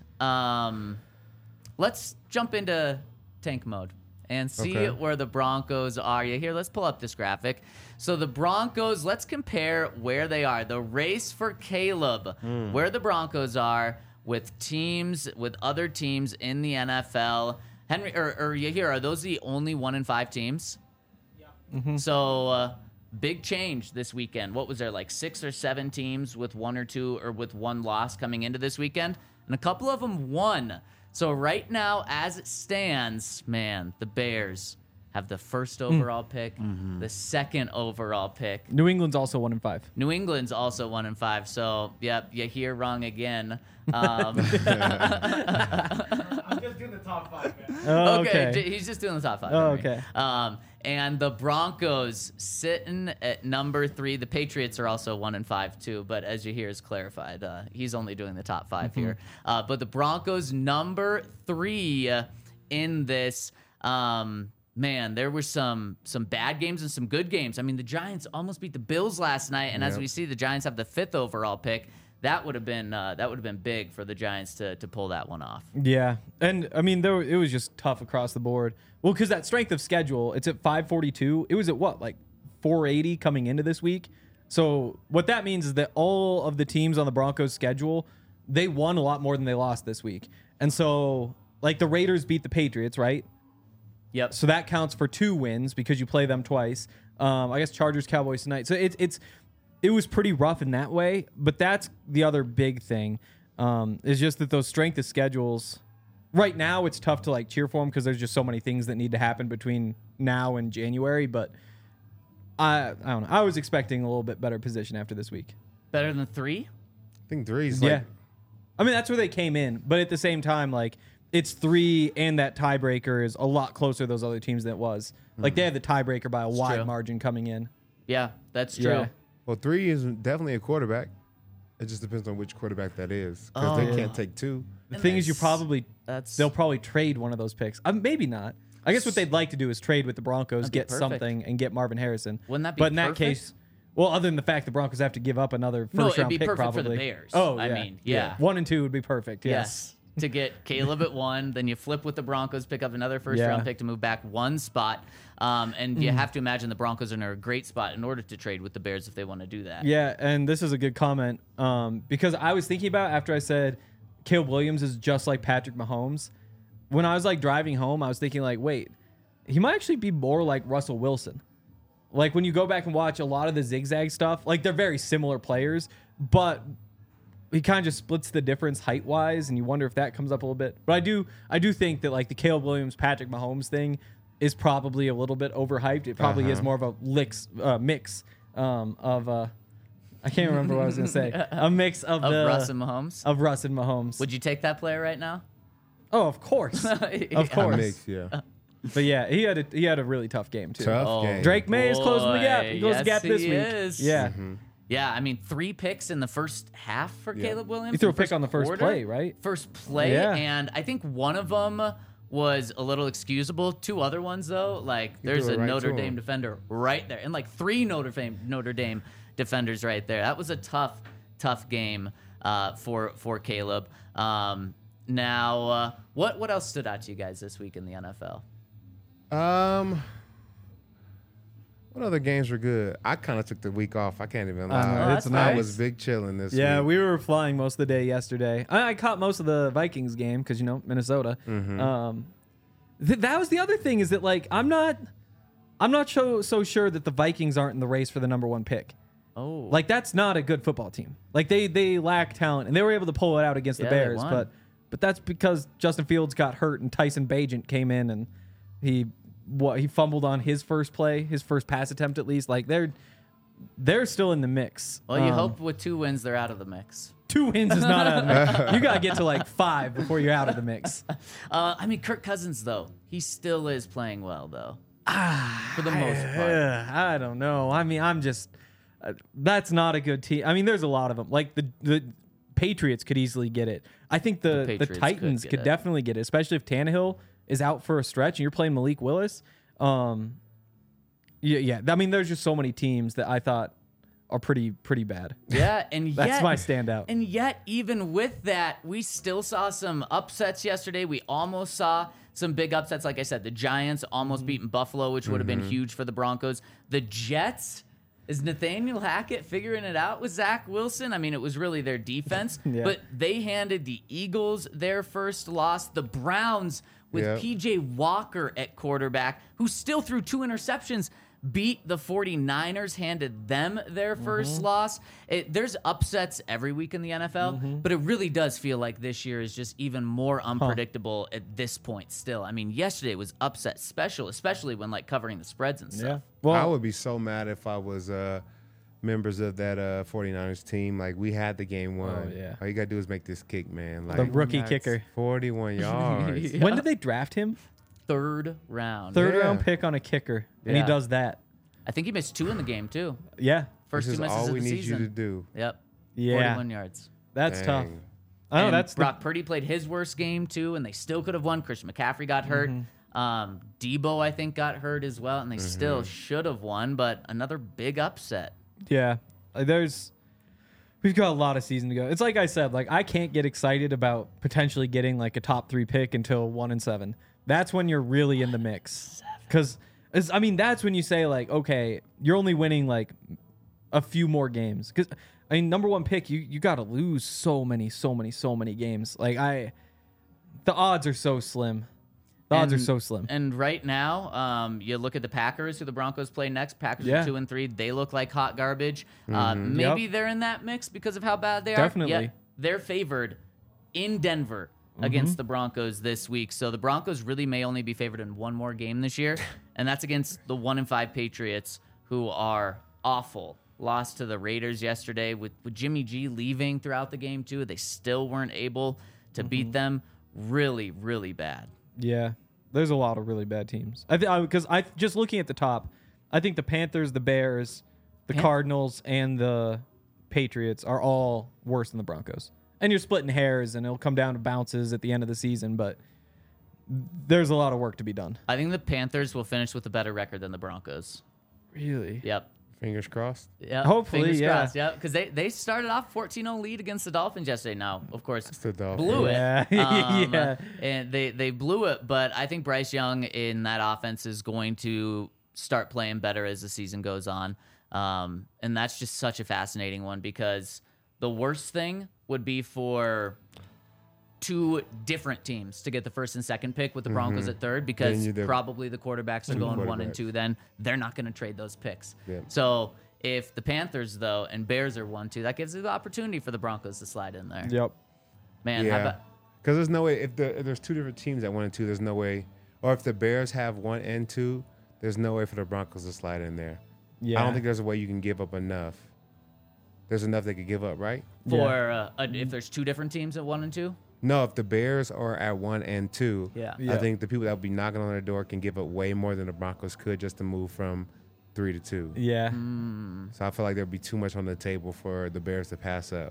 Speaker 2: let's jump into tank mode and see
Speaker 3: Okay.
Speaker 2: where the Broncos are. Yeah, here, let's pull up this graphic. So the Broncos, let's compare where they are. The race for Caleb, where the Broncos are with other teams in the NFL. Henry, or you here, are those the only 1-5 teams? Yeah. So big change this weekend. What was there, like 6 or 7 teams with 1 or 2 or with 1 loss coming into this weekend? And a couple of them won. So right now, as it stands, man, the Bears have the first overall pick, the second overall pick.
Speaker 4: New England's also 1-5.
Speaker 2: New England's also 1-5. So, yep, you hear wrong again.
Speaker 7: I'm just doing the top 5, man.
Speaker 4: Oh,
Speaker 2: Okay,
Speaker 4: okay.
Speaker 2: he's just doing the top 5.
Speaker 4: Oh,
Speaker 2: Henry.
Speaker 4: okay.
Speaker 2: And the Broncos sitting at number 3. The Patriots are also 1-5 too, but as you hear, is clarified. He's only doing the top 5 here. But the Broncos number 3 in this. Man, there were some bad games and some good games. I mean, the Giants almost beat the Bills last night, and as we see, the Giants have the 5th overall pick. That would have been big for the Giants to pull that one off.
Speaker 4: Yeah, and I mean it was just tough across the board. Well, because that strength of schedule, it's at 542. It was at what, like 480 coming into this week. So what that means is that all of the teams on the Broncos schedule, they won a lot more than they lost this week. And so like the Raiders beat the Patriots, right?
Speaker 2: Yep.
Speaker 4: So that counts for 2 wins because you play them twice. I guess Chargers, Cowboys tonight. So it was pretty rough in that way. But that's the other big thing is just that those strength of schedules. Right now, it's tough to like cheer for them because there's just so many things that need to happen between now and January. But I don't know. I was expecting a little bit better position after this week.
Speaker 2: Better than 3?
Speaker 3: I think 3's
Speaker 4: Yeah.
Speaker 3: like,
Speaker 4: I mean, that's where they came in. But at the same time, like, it's 3 and that tiebreaker is a lot closer to those other teams than it was Like they had the tiebreaker by a wide
Speaker 2: true.
Speaker 4: margin coming in.
Speaker 2: Yeah, that's true.
Speaker 4: Yeah.
Speaker 3: Well, 3 is definitely a quarterback. It just depends on which quarterback that is, because they can't take 2.
Speaker 4: The
Speaker 2: And
Speaker 4: thing is,
Speaker 2: that's
Speaker 4: they'll probably trade one of those picks. Maybe not. I guess what they'd like to do is trade with the Broncos,
Speaker 2: That'd be
Speaker 4: get
Speaker 2: perfect.
Speaker 4: something, and get Marvin Harrison.
Speaker 2: Wouldn't that be
Speaker 4: But in that
Speaker 2: perfect?
Speaker 4: case, well, other than the fact the Broncos have to give up another
Speaker 2: No,
Speaker 4: first
Speaker 2: it'd
Speaker 4: round
Speaker 2: be
Speaker 4: pick,
Speaker 2: perfect
Speaker 4: probably.
Speaker 2: for the Bears.
Speaker 4: Oh,
Speaker 2: I
Speaker 4: yeah.
Speaker 2: mean, yeah.
Speaker 4: 1 and 2 would be perfect.
Speaker 2: Yes. To get Caleb at 1, then you flip with the Broncos, pick up another first
Speaker 4: Yeah.
Speaker 2: round pick to move back 1 spot. And you have to imagine the Broncos are in a great spot in order to trade with the Bears if they want to do that.
Speaker 4: Yeah, and this is a good comment because I was thinking about after I said Caleb Williams is just like Patrick Mahomes. When I was like driving home, I was thinking like, wait, he might actually be more like Russell Wilson. Like when you go back and watch a lot of the zigzag stuff, like they're very similar players, but he kind of just splits the difference height wise, and you wonder if that comes up a little bit. But I do think that like the Caleb Williams Patrick Mahomes thing is probably a little bit overhyped. It probably is more of a mix of I can't remember what I was gonna say. A mix of
Speaker 2: Russ and Mahomes.
Speaker 4: of Russ and Mahomes.
Speaker 2: Would you take that player right now?
Speaker 4: Oh, of course, of
Speaker 2: Yeah.
Speaker 4: course.
Speaker 3: Mix, yeah.
Speaker 4: But yeah, he had a really tough game too.
Speaker 3: Tough
Speaker 2: Oh,
Speaker 3: game.
Speaker 4: Drake May is closing the gap. He
Speaker 2: boy,
Speaker 4: closed the gap
Speaker 2: yes,
Speaker 4: this
Speaker 2: he
Speaker 4: week.
Speaker 2: is.
Speaker 4: Yeah,
Speaker 2: Yeah, I mean, 3 picks in the first half for Caleb Williams.
Speaker 4: he threw a
Speaker 2: in the
Speaker 4: pick on the first
Speaker 2: quarter.
Speaker 4: play, right?
Speaker 2: First play,
Speaker 4: Yeah.
Speaker 2: and I think one of them was a little excusable. 2 other ones, though, like there's
Speaker 3: threw
Speaker 2: a
Speaker 3: it right
Speaker 2: Notre
Speaker 3: to
Speaker 2: Dame
Speaker 3: him.
Speaker 2: defender right there, and like 3 Notre Dame defenders right there. That was a tough game for Caleb. Now, what else stood out to you guys this week in the NFL?
Speaker 3: What other games were good? I kind of took the week off. I can't even lie.
Speaker 4: know,
Speaker 2: that's
Speaker 3: I
Speaker 2: nice.
Speaker 3: was big chilling this
Speaker 4: Yeah,
Speaker 3: week.
Speaker 4: we were flying most of the day yesterday. I caught most of the Vikings game because Minnesota. That was the other thing is that like I'm not so sure that the Vikings aren't in the race for the number 1 pick.
Speaker 2: Oh,
Speaker 4: Like that's not a good football team. Like they lack talent, and they were able to pull it out against the
Speaker 2: Yeah, they
Speaker 4: Bears.
Speaker 2: won.
Speaker 4: But that's because Justin Fields got hurt and Tyson Bagent came in and he fumbled on his first play, his first pass attempt at least. Like they're still in the mix.
Speaker 2: well, you hope with 2 wins they're out of the mix.
Speaker 4: 2 wins is not out of the mix. You gotta get to like 5 before you're out of the mix.
Speaker 2: I mean, Kirk Cousins though, he still is playing well though. For the most part.
Speaker 4: I don't know. I mean, I'm just that's not a good team. I mean, there's a lot of them. Like the Patriots could easily get it. I think the
Speaker 2: Patriots could
Speaker 4: Titans
Speaker 2: get
Speaker 4: could
Speaker 2: it.
Speaker 4: definitely get it, especially if Tannehill is out for a stretch and you're playing Malik Willis. Yeah. I mean, there's just so many teams that I thought are pretty bad.
Speaker 2: Yeah, and
Speaker 4: That's
Speaker 2: yet,
Speaker 4: my standout.
Speaker 2: And yet, even with that, we still saw some upsets yesterday. We almost saw some big upsets. Like I said, the Giants almost beating Buffalo, which would have been huge for the Broncos. The Jets, is Nathaniel Hackett figuring it out with Zach Wilson? I mean, it was really their defense,
Speaker 4: Yeah.
Speaker 2: but they handed the Eagles their first loss. The Browns with
Speaker 3: Yep.
Speaker 2: PJ Walker at quarterback, who still threw 2 interceptions, beat the 49ers, handed them their first loss. There's upsets every week in the NFL, but it really does feel like this year is just even more unpredictable at this point still. I mean, yesterday was upset special, especially when like covering the spreads and stuff.
Speaker 4: Well,
Speaker 3: I would be so mad if I was members of that 49ers team. Like, we had the game won.
Speaker 4: Oh, yeah.
Speaker 3: All you got to do is make this kick, man. Like,
Speaker 4: the rookie kicker.
Speaker 3: 41 yards.
Speaker 4: When did they draft him?
Speaker 2: 3rd round.
Speaker 4: Third
Speaker 3: Yeah.
Speaker 4: round pick on a kicker, and he
Speaker 2: Yeah.
Speaker 4: does that.
Speaker 2: I think he missed 2 in the game too.
Speaker 4: Yeah.
Speaker 2: First
Speaker 3: This
Speaker 2: 2
Speaker 3: is
Speaker 2: misses
Speaker 3: all
Speaker 2: of
Speaker 3: we
Speaker 2: the
Speaker 3: need
Speaker 2: season.
Speaker 3: you to do.
Speaker 2: Yep.
Speaker 4: Yeah.
Speaker 2: 41 yards.
Speaker 4: That's tough.
Speaker 3: Dang.
Speaker 4: Oh,
Speaker 2: And
Speaker 4: that's
Speaker 2: Brock Purdy played his worst game too, and they still could have won. Christian McCaffrey got hurt. Debo, I think, got hurt as well, and they still should have won. But another big upset.
Speaker 4: Yeah, we've got a lot of season to go. It's like I said, like I can't get excited about potentially getting like a top 3 pick until 1 and 7. That's when you're really in the mix. Because I mean, that's when you say like, okay, you're only winning like a few more games. Because I mean, number 1 pick, you got to lose so many games. Like the odds are so slim. The odds are so slim.
Speaker 2: And right now, you look at the Packers, who the Broncos play next. Packers
Speaker 4: Yeah.
Speaker 2: are 2 and 3. They look like hot garbage. Maybe
Speaker 4: Yep.
Speaker 2: they're in that mix because of how bad they are.
Speaker 4: Definitely.
Speaker 2: Yet they're favored in Denver against the Broncos this week. So the Broncos really may only be favored in 1 more game this year, and that's against the 1 and 5 Patriots, who are awful. Lost to the Raiders yesterday with Jimmy G leaving throughout the game too. They still weren't able to beat them. Really, really bad.
Speaker 4: Yeah. there's a lot of really bad teams. I think because I just looking at the top, I think the Panthers, the Bears, the Cardinals, and the Patriots are all worse than the Broncos. And you're splitting hairs, and it'll come down to bounces at the end of the season, but there's a lot of work to be done.
Speaker 2: I think the Panthers will finish with a better record than the Broncos.
Speaker 4: Really?
Speaker 2: Yep.
Speaker 3: Fingers crossed.
Speaker 2: Yep.
Speaker 4: Hopefully,
Speaker 2: Fingers
Speaker 4: yeah.
Speaker 2: crossed, yep. Because they started off 14-0 lead against the Dolphins yesterday. Now, of course,
Speaker 3: the Dolphins.
Speaker 2: blew it.
Speaker 4: Yeah. Yeah.
Speaker 2: And they blew it, but I think Bryce Young in that offense is going to start playing better as the season goes on. And that's just such a fascinating one because the worst thing would be for two different teams to get the first and second pick with the Broncos at third because
Speaker 3: Then you're
Speaker 2: probably the quarterbacks are going 1 and
Speaker 3: quarterbacks.
Speaker 2: 2. Then they're not going to trade those picks.
Speaker 3: Yeah.
Speaker 2: So if the Panthers, though, and Bears are 1-2, that gives you the opportunity for the Broncos to slide in there.
Speaker 4: Yep.
Speaker 2: Man, how
Speaker 3: Yeah.
Speaker 2: about
Speaker 3: Because there's no way if there's two different teams at 1 and 2, there's no way. Or if the Bears have 1 and 2, there's no way for the Broncos to slide in there.
Speaker 4: Yeah.
Speaker 3: I don't think there's a way you can give up enough. There's enough they could give up, right?
Speaker 2: for if there's two different teams at 1 and 2?
Speaker 3: No, if the Bears are at 1 and 2,
Speaker 2: Yeah.
Speaker 3: I think the people that will be knocking on their door can give up way more than the Broncos could just to move from 3 to 2.
Speaker 4: Yeah.
Speaker 3: So I feel like there'd be too much on the table for the Bears to pass up.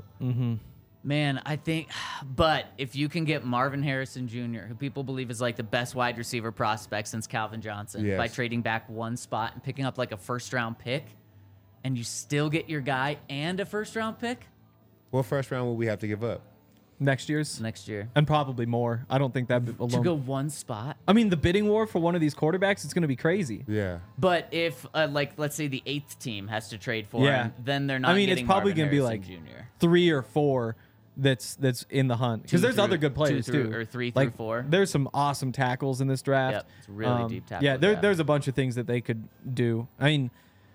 Speaker 2: Man, I think, but if you can get Marvin Harrison Jr., who people believe is like the best wide receiver prospect since Calvin Johnson,
Speaker 3: Yes.
Speaker 2: by trading back one spot and picking up like a first-round pick, and you still get your guy and a first-round pick
Speaker 3: What first round will we have to give up?
Speaker 4: Next year's.
Speaker 2: next year
Speaker 4: And probably more. I don't think that
Speaker 2: to
Speaker 4: alone.
Speaker 2: go one spot.
Speaker 4: I mean, the bidding war for one of these quarterbacks is going to be crazy.
Speaker 3: Yeah.
Speaker 2: But if, like, let's say the 8th team has to trade for
Speaker 4: Yeah.
Speaker 2: him, then they're not.
Speaker 4: I mean, it's
Speaker 2: getting
Speaker 4: probably
Speaker 2: going to
Speaker 4: be like
Speaker 2: Jr.
Speaker 4: 3 or 4 that's in the hunt because
Speaker 2: Two
Speaker 4: there's
Speaker 2: through-
Speaker 4: other good players
Speaker 2: two through-
Speaker 4: too,
Speaker 2: or 3 through
Speaker 4: like,
Speaker 2: 4.
Speaker 4: There's some awesome tackles in this draft.
Speaker 2: Yep, it's a really deep tackle
Speaker 4: Yeah,
Speaker 2: draft.
Speaker 4: there's a bunch of things that they could do. I mean,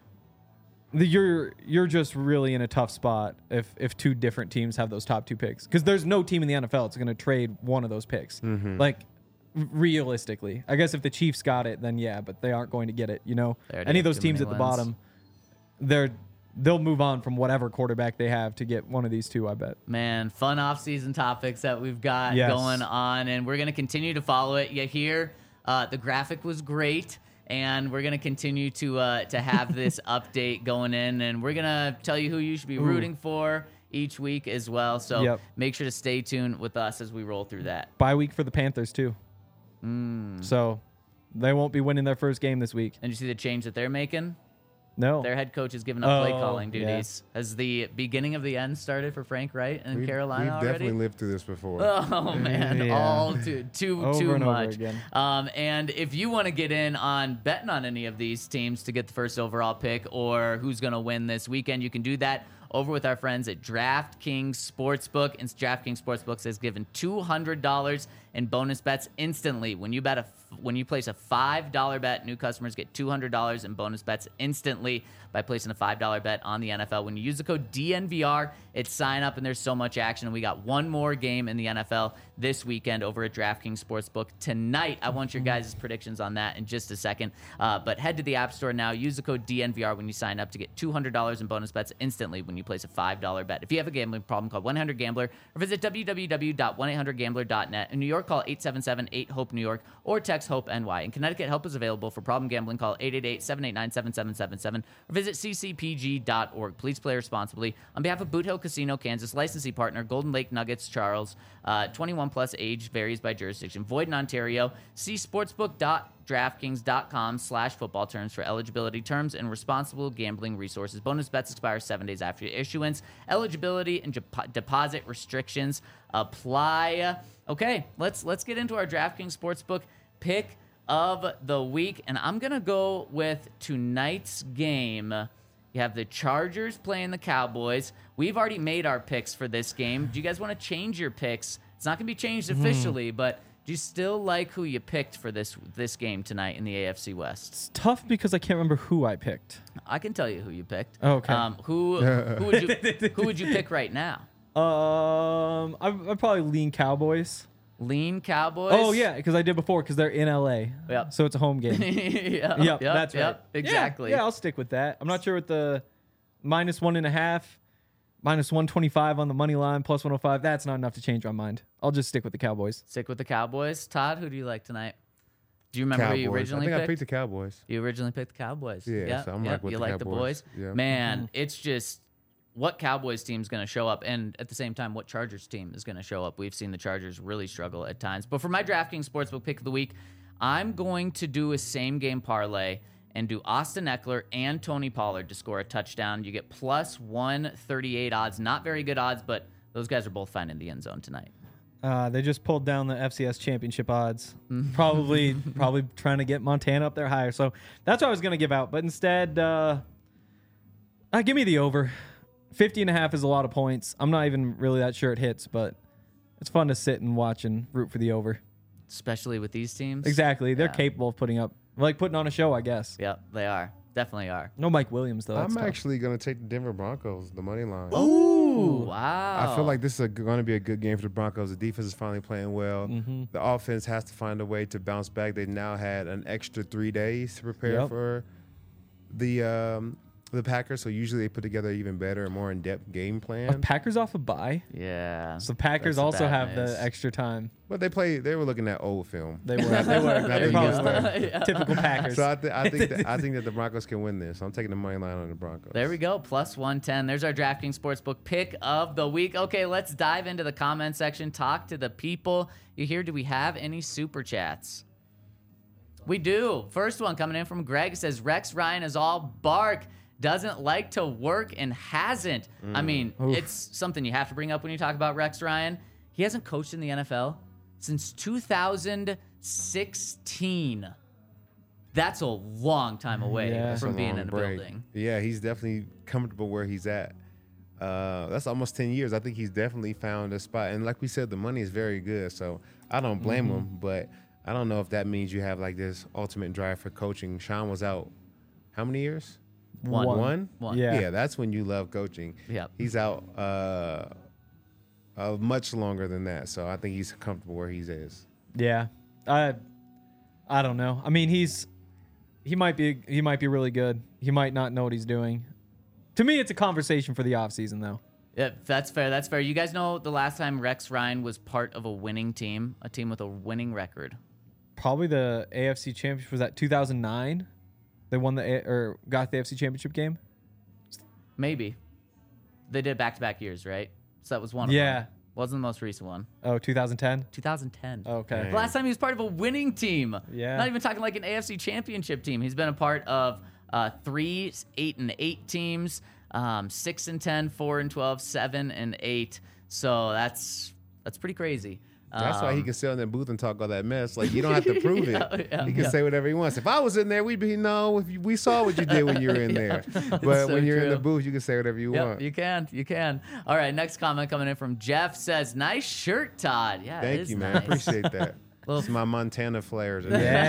Speaker 4: you're just really in a tough spot if two different teams have those top 2 picks because there's no team in the NFL that's going to trade one of those picks. Like realistically, I guess if the Chiefs got it, then yeah, but they aren't going to get it. You know,
Speaker 2: They already
Speaker 4: any
Speaker 2: have
Speaker 4: of those
Speaker 2: too
Speaker 4: teams at
Speaker 2: many
Speaker 4: the
Speaker 2: wins.
Speaker 4: bottom, they'll move on from whatever quarterback they have to get one of these two. I bet.
Speaker 2: Man, fun off-season topics that we've got
Speaker 4: Yes.
Speaker 2: going on, and we're going to continue to follow it. You hear the graphic was great, and we're going to continue to have this update going in, and we're going to tell you who you should be rooting for each week as well. So
Speaker 4: Yep.
Speaker 2: make sure to stay tuned with us as we roll through that.
Speaker 4: Bye week for the Panthers too. So they won't be winning their first game this week.
Speaker 2: And you see the change that they're making?
Speaker 4: No.
Speaker 2: Their head coach has given up play
Speaker 4: Oh,
Speaker 2: calling
Speaker 4: yeah.
Speaker 2: duties. Has the beginning of the end started for Frank Wright in
Speaker 3: We've
Speaker 2: Carolina already?
Speaker 3: definitely lived through this before.
Speaker 2: Oh man,
Speaker 4: Yeah.
Speaker 2: all too
Speaker 4: Over and over
Speaker 2: much.
Speaker 4: again.
Speaker 2: And if you want to get in on betting on any of these teams to get the first overall pick or who's going to win this weekend, you can do that over with our friends at DraftKings Sportsbook. And DraftKings Sportsbook has given $200 in bonus bets instantly when you place a $5 bet. New customers get $200 in bonus bets instantly by placing a $5 bet on the NFL. When you use the code DNVR, it's sign up, and there's so much action. And we got one more game in the NFL this weekend over at DraftKings Sportsbook tonight. I want your guys' predictions on that in just a second. But head to the App Store now. Use the code DNVR when you sign up to get $200 in bonus bets instantly when you place a $5 bet. If you have a gambling problem, call 1-800-GAMBLER or visit www.1800gambler.net. In New York, call 877-8-HOPE-NEW YORK or text HOPE-NY. In Connecticut, help is available for problem gambling. Call 888-789-7777 or visit ccpg.org. Please play responsibly. On behalf of Boot Hill Casino, Kansas, licensee partner, Golden Lake Nuggets, Charles, 21 plus, age varies by jurisdiction, void in Ontario. See sportsbook.draftkings.com/football terms for eligibility, terms, and responsible gambling resources. Bonus bets expire 7 days after issuance. Eligibility and deposit restrictions apply. Okay, let's get into our DraftKings Sportsbook pick of the week, and I'm gonna go with tonight's game. You have the Chargers playing the Cowboys. We've already made our picks for this game. Do you guys want to change your picks? It's not gonna be changed officially, but do you still like who you picked for this game tonight in the AFC West?
Speaker 4: It's tough because I can't remember who I picked.
Speaker 2: I can tell you who you picked.
Speaker 4: Okay.
Speaker 2: Who would you pick right now?
Speaker 4: I'd probably lean Cowboys.
Speaker 2: Lean Cowboys.
Speaker 4: Oh yeah, because I did before because they're in LA.
Speaker 2: Yep.
Speaker 4: So it's a home game.
Speaker 2: Yep,
Speaker 4: That's right.
Speaker 2: Exactly.
Speaker 4: Yeah, I'll stick with that. I'm not sure what the -1.5, -125 on the money line, +105. That's not enough to change my mind. I'll just stick with the Cowboys.
Speaker 2: Stick with the Cowboys. Todd, who do you like tonight? Do you remember who you
Speaker 3: Cowboys.
Speaker 2: originally
Speaker 3: I think
Speaker 2: picked?
Speaker 3: I picked the Cowboys.
Speaker 2: You originally picked the Cowboys.
Speaker 3: Yeah, so I'm like with
Speaker 2: you
Speaker 3: the
Speaker 2: like the
Speaker 3: Cowboys.
Speaker 2: boys.
Speaker 3: Yeah.
Speaker 2: Man, it's just what Cowboys team's going to show up, and at the same time, what Chargers team is going to show up. We've seen the Chargers really struggle at times. But for my DraftKings Sportsbook pick of the week, I'm going to do a same game parlay and do Austin Eckler and Tony Pollard to score a touchdown. You get plus 138 odds. Not very good odds, but those guys are both finding the end zone tonight.
Speaker 4: They just pulled down the FCS championship odds. Probably trying to get Montana up there higher. So that's what I was going to give out. But instead, give me the over. 50.5 is a lot of points. I'm not even really that sure it hits, but it's fun to sit and watch and root for the over.
Speaker 2: Especially with these teams.
Speaker 4: Exactly. They're
Speaker 2: Yeah.
Speaker 4: capable of putting on a show, I guess.
Speaker 2: Yep, they are. Definitely are.
Speaker 4: No Mike Williams, though. That's
Speaker 3: I'm
Speaker 4: tough.
Speaker 3: actually going to take the Denver Broncos, the money line.
Speaker 2: Ooh, wow.
Speaker 3: I feel like this is going to be a good game for the Broncos. The defense is finally playing well.
Speaker 4: Mm-hmm.
Speaker 3: The offense has to find a way to bounce back. They've now had an extra 3 days to prepare
Speaker 4: Yep.
Speaker 3: for the Packers. So usually they put together an even better and more in-depth game
Speaker 4: Are
Speaker 3: plan.
Speaker 4: Packers off a bye?
Speaker 2: Yeah.
Speaker 4: So Packers
Speaker 2: That's the
Speaker 4: also
Speaker 2: bad
Speaker 4: have
Speaker 2: news.
Speaker 4: the extra time.
Speaker 3: But they were looking at old film.
Speaker 4: They were.
Speaker 3: Not
Speaker 4: They
Speaker 3: the
Speaker 4: probably
Speaker 3: new
Speaker 4: were.
Speaker 3: stuff.
Speaker 4: Typical Packers.
Speaker 3: So I think that the Broncos can win this. So I'm taking the money line on the Broncos.
Speaker 2: There we go. Plus 110. There's our DraftKings Sportsbook pick of the week. Okay, let's dive into the comment section. Talk to the people. You hear, do we have any super chats? We do. First one coming in from Greg says, Rex Ryan is all bark. Doesn't like to work and hasn't. I mean, it's something you have to bring up when you talk about Rex Ryan. He hasn't coached in the NFL since 2016. That's a long time away
Speaker 4: Yeah.
Speaker 3: That's
Speaker 2: from
Speaker 3: a
Speaker 2: being
Speaker 3: long
Speaker 2: in a
Speaker 3: break.
Speaker 2: building.
Speaker 3: Yeah, he's definitely comfortable where he's at. That's almost 10 years. I think he's definitely found a spot. And like we said, the money is very good. So I don't blame him, but I don't know if that means you have like this ultimate drive for coaching. Sean was out how many years?
Speaker 2: One.
Speaker 4: Yeah.
Speaker 3: Yeah, that's when you love coaching.
Speaker 2: Yep.
Speaker 3: He's out much longer than that. So I think he's comfortable where he is.
Speaker 4: Yeah, I don't know. I mean, he might be really good. He might not know what he's doing. To me, it's a conversation for the offseason, though.
Speaker 2: Yeah, that's fair. That's fair. You guys know the last time Rex Ryan was part of a winning team, a team with a winning record.
Speaker 4: Probably the AFC Championship. Was that 2009? They won got the AFC Championship game.
Speaker 2: Maybe. They did back-to-back years, right? So that was one of
Speaker 4: Yeah.
Speaker 2: them. Wasn't the most recent one.
Speaker 4: Oh, 2010.
Speaker 2: 2010.
Speaker 4: Okay.
Speaker 2: The last time he was part of a winning team.
Speaker 4: Yeah.
Speaker 2: Not even talking like an AFC Championship team. He's been a part of 3 8-8 teams, 6-10, 4-12, 7-8. So that's pretty crazy.
Speaker 3: That's why he can sit in the booth and talk all that mess. Like, you don't have to prove it.
Speaker 2: Yeah,
Speaker 3: He can say whatever he wants. If I was in there, we'd be, we saw what you did when you were in there. But
Speaker 2: so
Speaker 3: when you're in the
Speaker 2: true.
Speaker 3: booth, you can say whatever you
Speaker 2: Yep,
Speaker 3: want.
Speaker 2: you can. You can. All right, next comment coming in from Jeff says, nice shirt, Todd. Yeah, it
Speaker 3: Thank
Speaker 2: is
Speaker 3: you, man.
Speaker 2: nice.
Speaker 3: I appreciate that.
Speaker 2: Little-
Speaker 3: It's my Montana flares.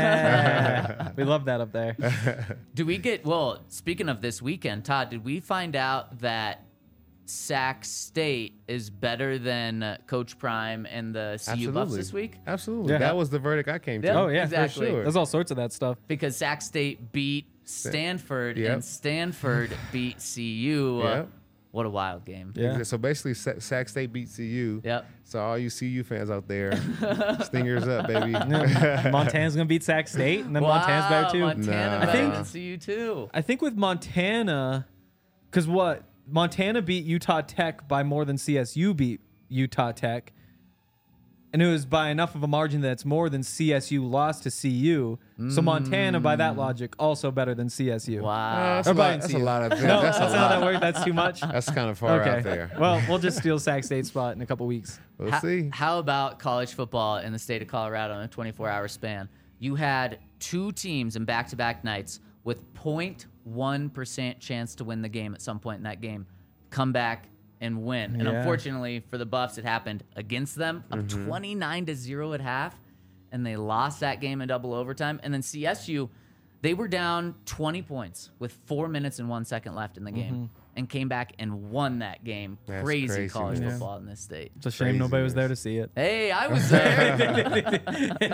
Speaker 4: Yeah. We love that up there.
Speaker 2: Do we get, well, speaking of this weekend, Todd, did we find out that Sac State is better than Coach Prime and the CU Buffs this week?
Speaker 3: Absolutely.
Speaker 4: Yeah.
Speaker 3: That was the verdict I came to.
Speaker 2: Yeah.
Speaker 4: Oh yeah,
Speaker 2: Exactly.
Speaker 3: For sure.
Speaker 4: There's all sorts of that stuff.
Speaker 2: Because Sac State beat Stanford
Speaker 3: Yep.
Speaker 2: and Stanford beat CU.
Speaker 3: Yep.
Speaker 2: What a wild game.
Speaker 4: Yeah.
Speaker 3: So basically, Sac State beat CU.
Speaker 2: Yep.
Speaker 3: So all you CU fans out there, Stingers up, baby.
Speaker 4: Montana's gonna beat Sac State, and then Montana's better too.
Speaker 2: Montana
Speaker 3: Nah.
Speaker 2: better
Speaker 3: I
Speaker 2: than CU too.
Speaker 4: I think with Montana, because Montana beat Utah Tech by more than CSU beat Utah Tech, and it was by enough of a margin that it's more than CSU lost to CU. So Montana, by that logic, also better than CSU.
Speaker 2: Wow.
Speaker 3: That's a
Speaker 4: Or
Speaker 3: lot.
Speaker 4: by
Speaker 3: That's a
Speaker 4: CU.
Speaker 3: lot of things.
Speaker 4: No,
Speaker 3: that's
Speaker 4: that's
Speaker 3: a
Speaker 4: not
Speaker 3: lot.
Speaker 4: that word. That's too much.
Speaker 3: That's kind of far out there.
Speaker 4: Well, we'll just steal Sac State's spot in a couple weeks.
Speaker 3: We'll see.
Speaker 2: How about college football in the state of Colorado in a 24-hour span? You had two teams in back-to-back nights with 0.1% chance to win the game at some point in that game come back and win. And
Speaker 4: Yeah.
Speaker 2: unfortunately for the Buffs, it happened against them, up 29-0 at half, and they lost that game in double overtime. And then CSU, they were down 20 points with 4 minutes and 1 second left in the game and came back and won that game.
Speaker 3: That's
Speaker 2: Crazy
Speaker 3: crazy,
Speaker 2: college
Speaker 3: man.
Speaker 2: football in this state.
Speaker 4: It's a shame nobody was there to see it.
Speaker 2: Hey, I was there.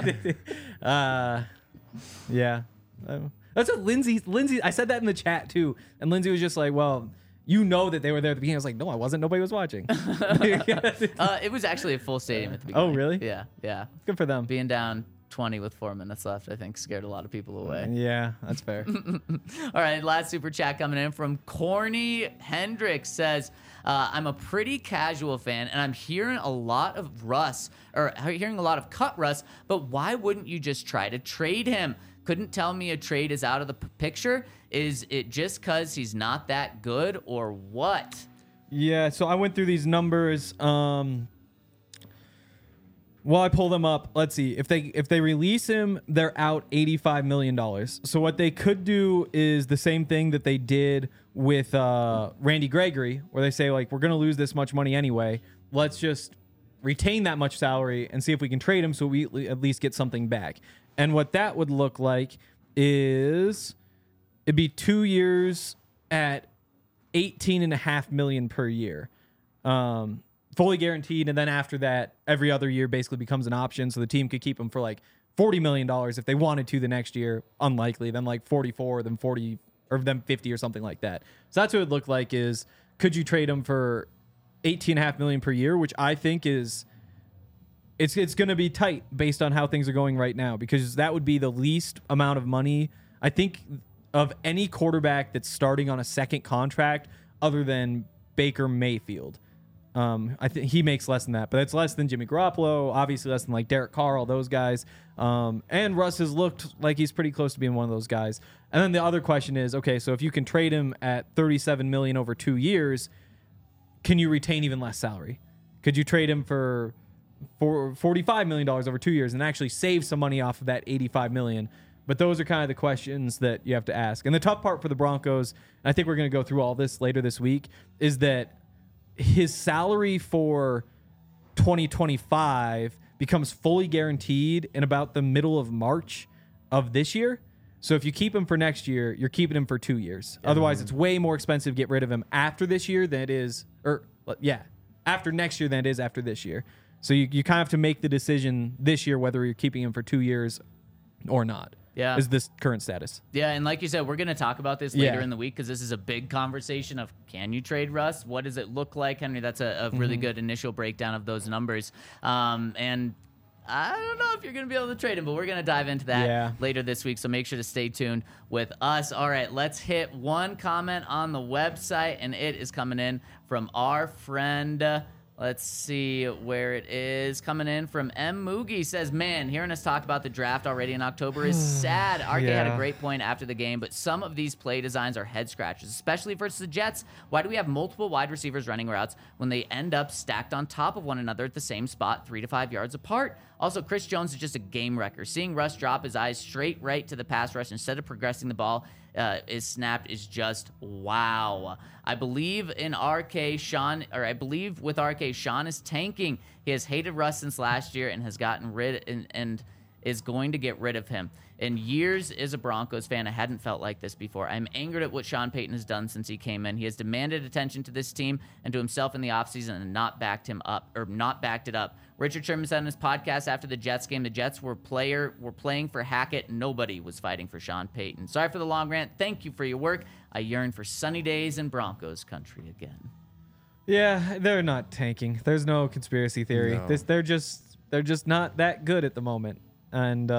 Speaker 4: Yeah. That's what Lindsay, I said that in the chat too. And Lindsay was just like, well, you know that they were there at the beginning. I was like, no, I wasn't. Nobody was watching.
Speaker 2: It was actually a full stadium at the beginning.
Speaker 4: Oh, really?
Speaker 2: Yeah.
Speaker 4: Good for them.
Speaker 2: Being down 20 with 4 minutes left, I think scared a lot of people away.
Speaker 4: Yeah, that's fair.
Speaker 2: All right, last super chat coming in from Corny Hendricks says, I'm a pretty casual fan, and I'm hearing a lot of hearing a lot of cut Russ, but why wouldn't you just try to trade him? Couldn't tell me a trade is out of the picture. Is it just because he's not that good, or what?
Speaker 4: Yeah, so I went through these numbers. Well, I pull them up. Let's see. If they release him, they're out $85 million. So what they could do is the same thing that they did with Randy Gregory, where they say, like, we're going to lose this much money anyway. Let's just retain that much salary and see if we can trade him so we at least get something back. And what that would look like is it'd be 2 years at $18.5 million per year. Fully guaranteed, and then after that, every other year basically becomes an option, so the team could keep him for like $40 million if they wanted to the next year. Unlikely, then like 44, then 40, or then 50 or something like that. So that's what it would look like is, could you trade him for $18.5 million per year, which I think is, it's going to be tight based on how things are going right now, because that would be the least amount of money, I think, of any quarterback that's starting on a second contract other than Baker Mayfield. I think he makes less than that, but it's less than Jimmy Garoppolo, obviously less than like Derek Carr, all those guys. And Russ has looked like he's pretty close to being one of those guys. And then the other question is, okay, so if you can trade him at $37 million over 2 years, can you retain even less salary? Could you trade him for $45 million over 2 years and actually save some money off of that $85 million? But those are kind of the questions that you have to ask. And the tough part for the Broncos, and I think we're going to go through all this later this week, is that his salary for 2025 becomes fully guaranteed in about the middle of March of this year. So if you keep him for next year, you're keeping him for 2 years. Otherwise, it's way more expensive to get rid of him after this year than it is, after next year than it is after this year. So you kind of have to make the decision this year whether you're keeping him for 2 years or not.
Speaker 2: Yeah.
Speaker 4: Is this current status.
Speaker 2: Yeah, and like you said, we're going to talk about this later in the week because this is a big conversation of, can you trade Russ? What does it look like, Henry? That's a really good initial breakdown of those numbers. And I don't know if you're going to be able to trade him, but we're going to dive into that later this week, so make sure to stay tuned with us. All right, let's hit one comment on the website, and it is coming in from our friend... Let's see where it is. Coming in from M. Moogie says, man, hearing us talk about the draft already in October is sad. RK had a great point after the game, but some of these play designs are head scratches, especially versus the Jets. Why do we have multiple wide receivers running routes when they end up stacked on top of one another at the same spot 3 to 5 yards apart? Also, Chris Jones is just a game wrecker. Seeing Russ drop his eyes straight right to the pass rush instead of progressing the ball is snapped is just wow. I believe with RK, Sean is tanking. He has hated Russ since last year and has gotten rid and is going to get rid of him. In years as a Broncos fan, I hadn't felt like this before. I'm angered at what Sean Payton has done since he came in. He has demanded attention to this team and to himself in the offseason and not backed it up. Richard Sherman said on his podcast after the Jets game, the Jets were playing for Hackett. Nobody was fighting for Sean Payton. Sorry for the long rant. Thank you for your work. I yearn for sunny days in Broncos country again.
Speaker 4: Yeah, they're not tanking. There's no conspiracy theory.
Speaker 3: No.
Speaker 4: They're just not that good at the moment, and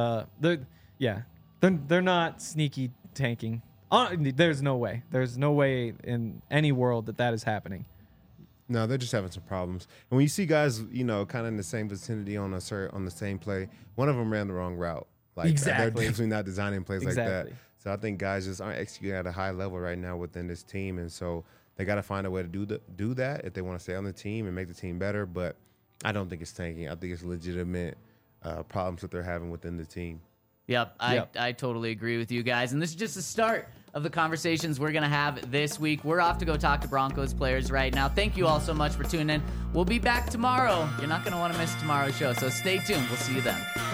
Speaker 4: they're not sneaky tanking. There's no way. There's no way in any world that is happening.
Speaker 3: No, they're just having some problems. And when you see guys, kind of in the same vicinity on the same play, one of them ran the wrong route. Like
Speaker 4: Exactly.
Speaker 3: They're definitely not designing plays like
Speaker 4: Exactly.
Speaker 3: that. So I think guys just aren't executing at a high level right now within this team, and so they got to find a way to do that if they want to stay on the team and make the team better. But I don't think it's tanking. I think it's legitimate problems that they're having within the team.
Speaker 2: Yep, I totally agree with you guys. And this is just the start of the conversations we're going to have this week. We're off to go talk to Broncos players right now. Thank you all so much for tuning in. We'll be back tomorrow. You're not going to want to miss tomorrow's show, so stay tuned. We'll see you then.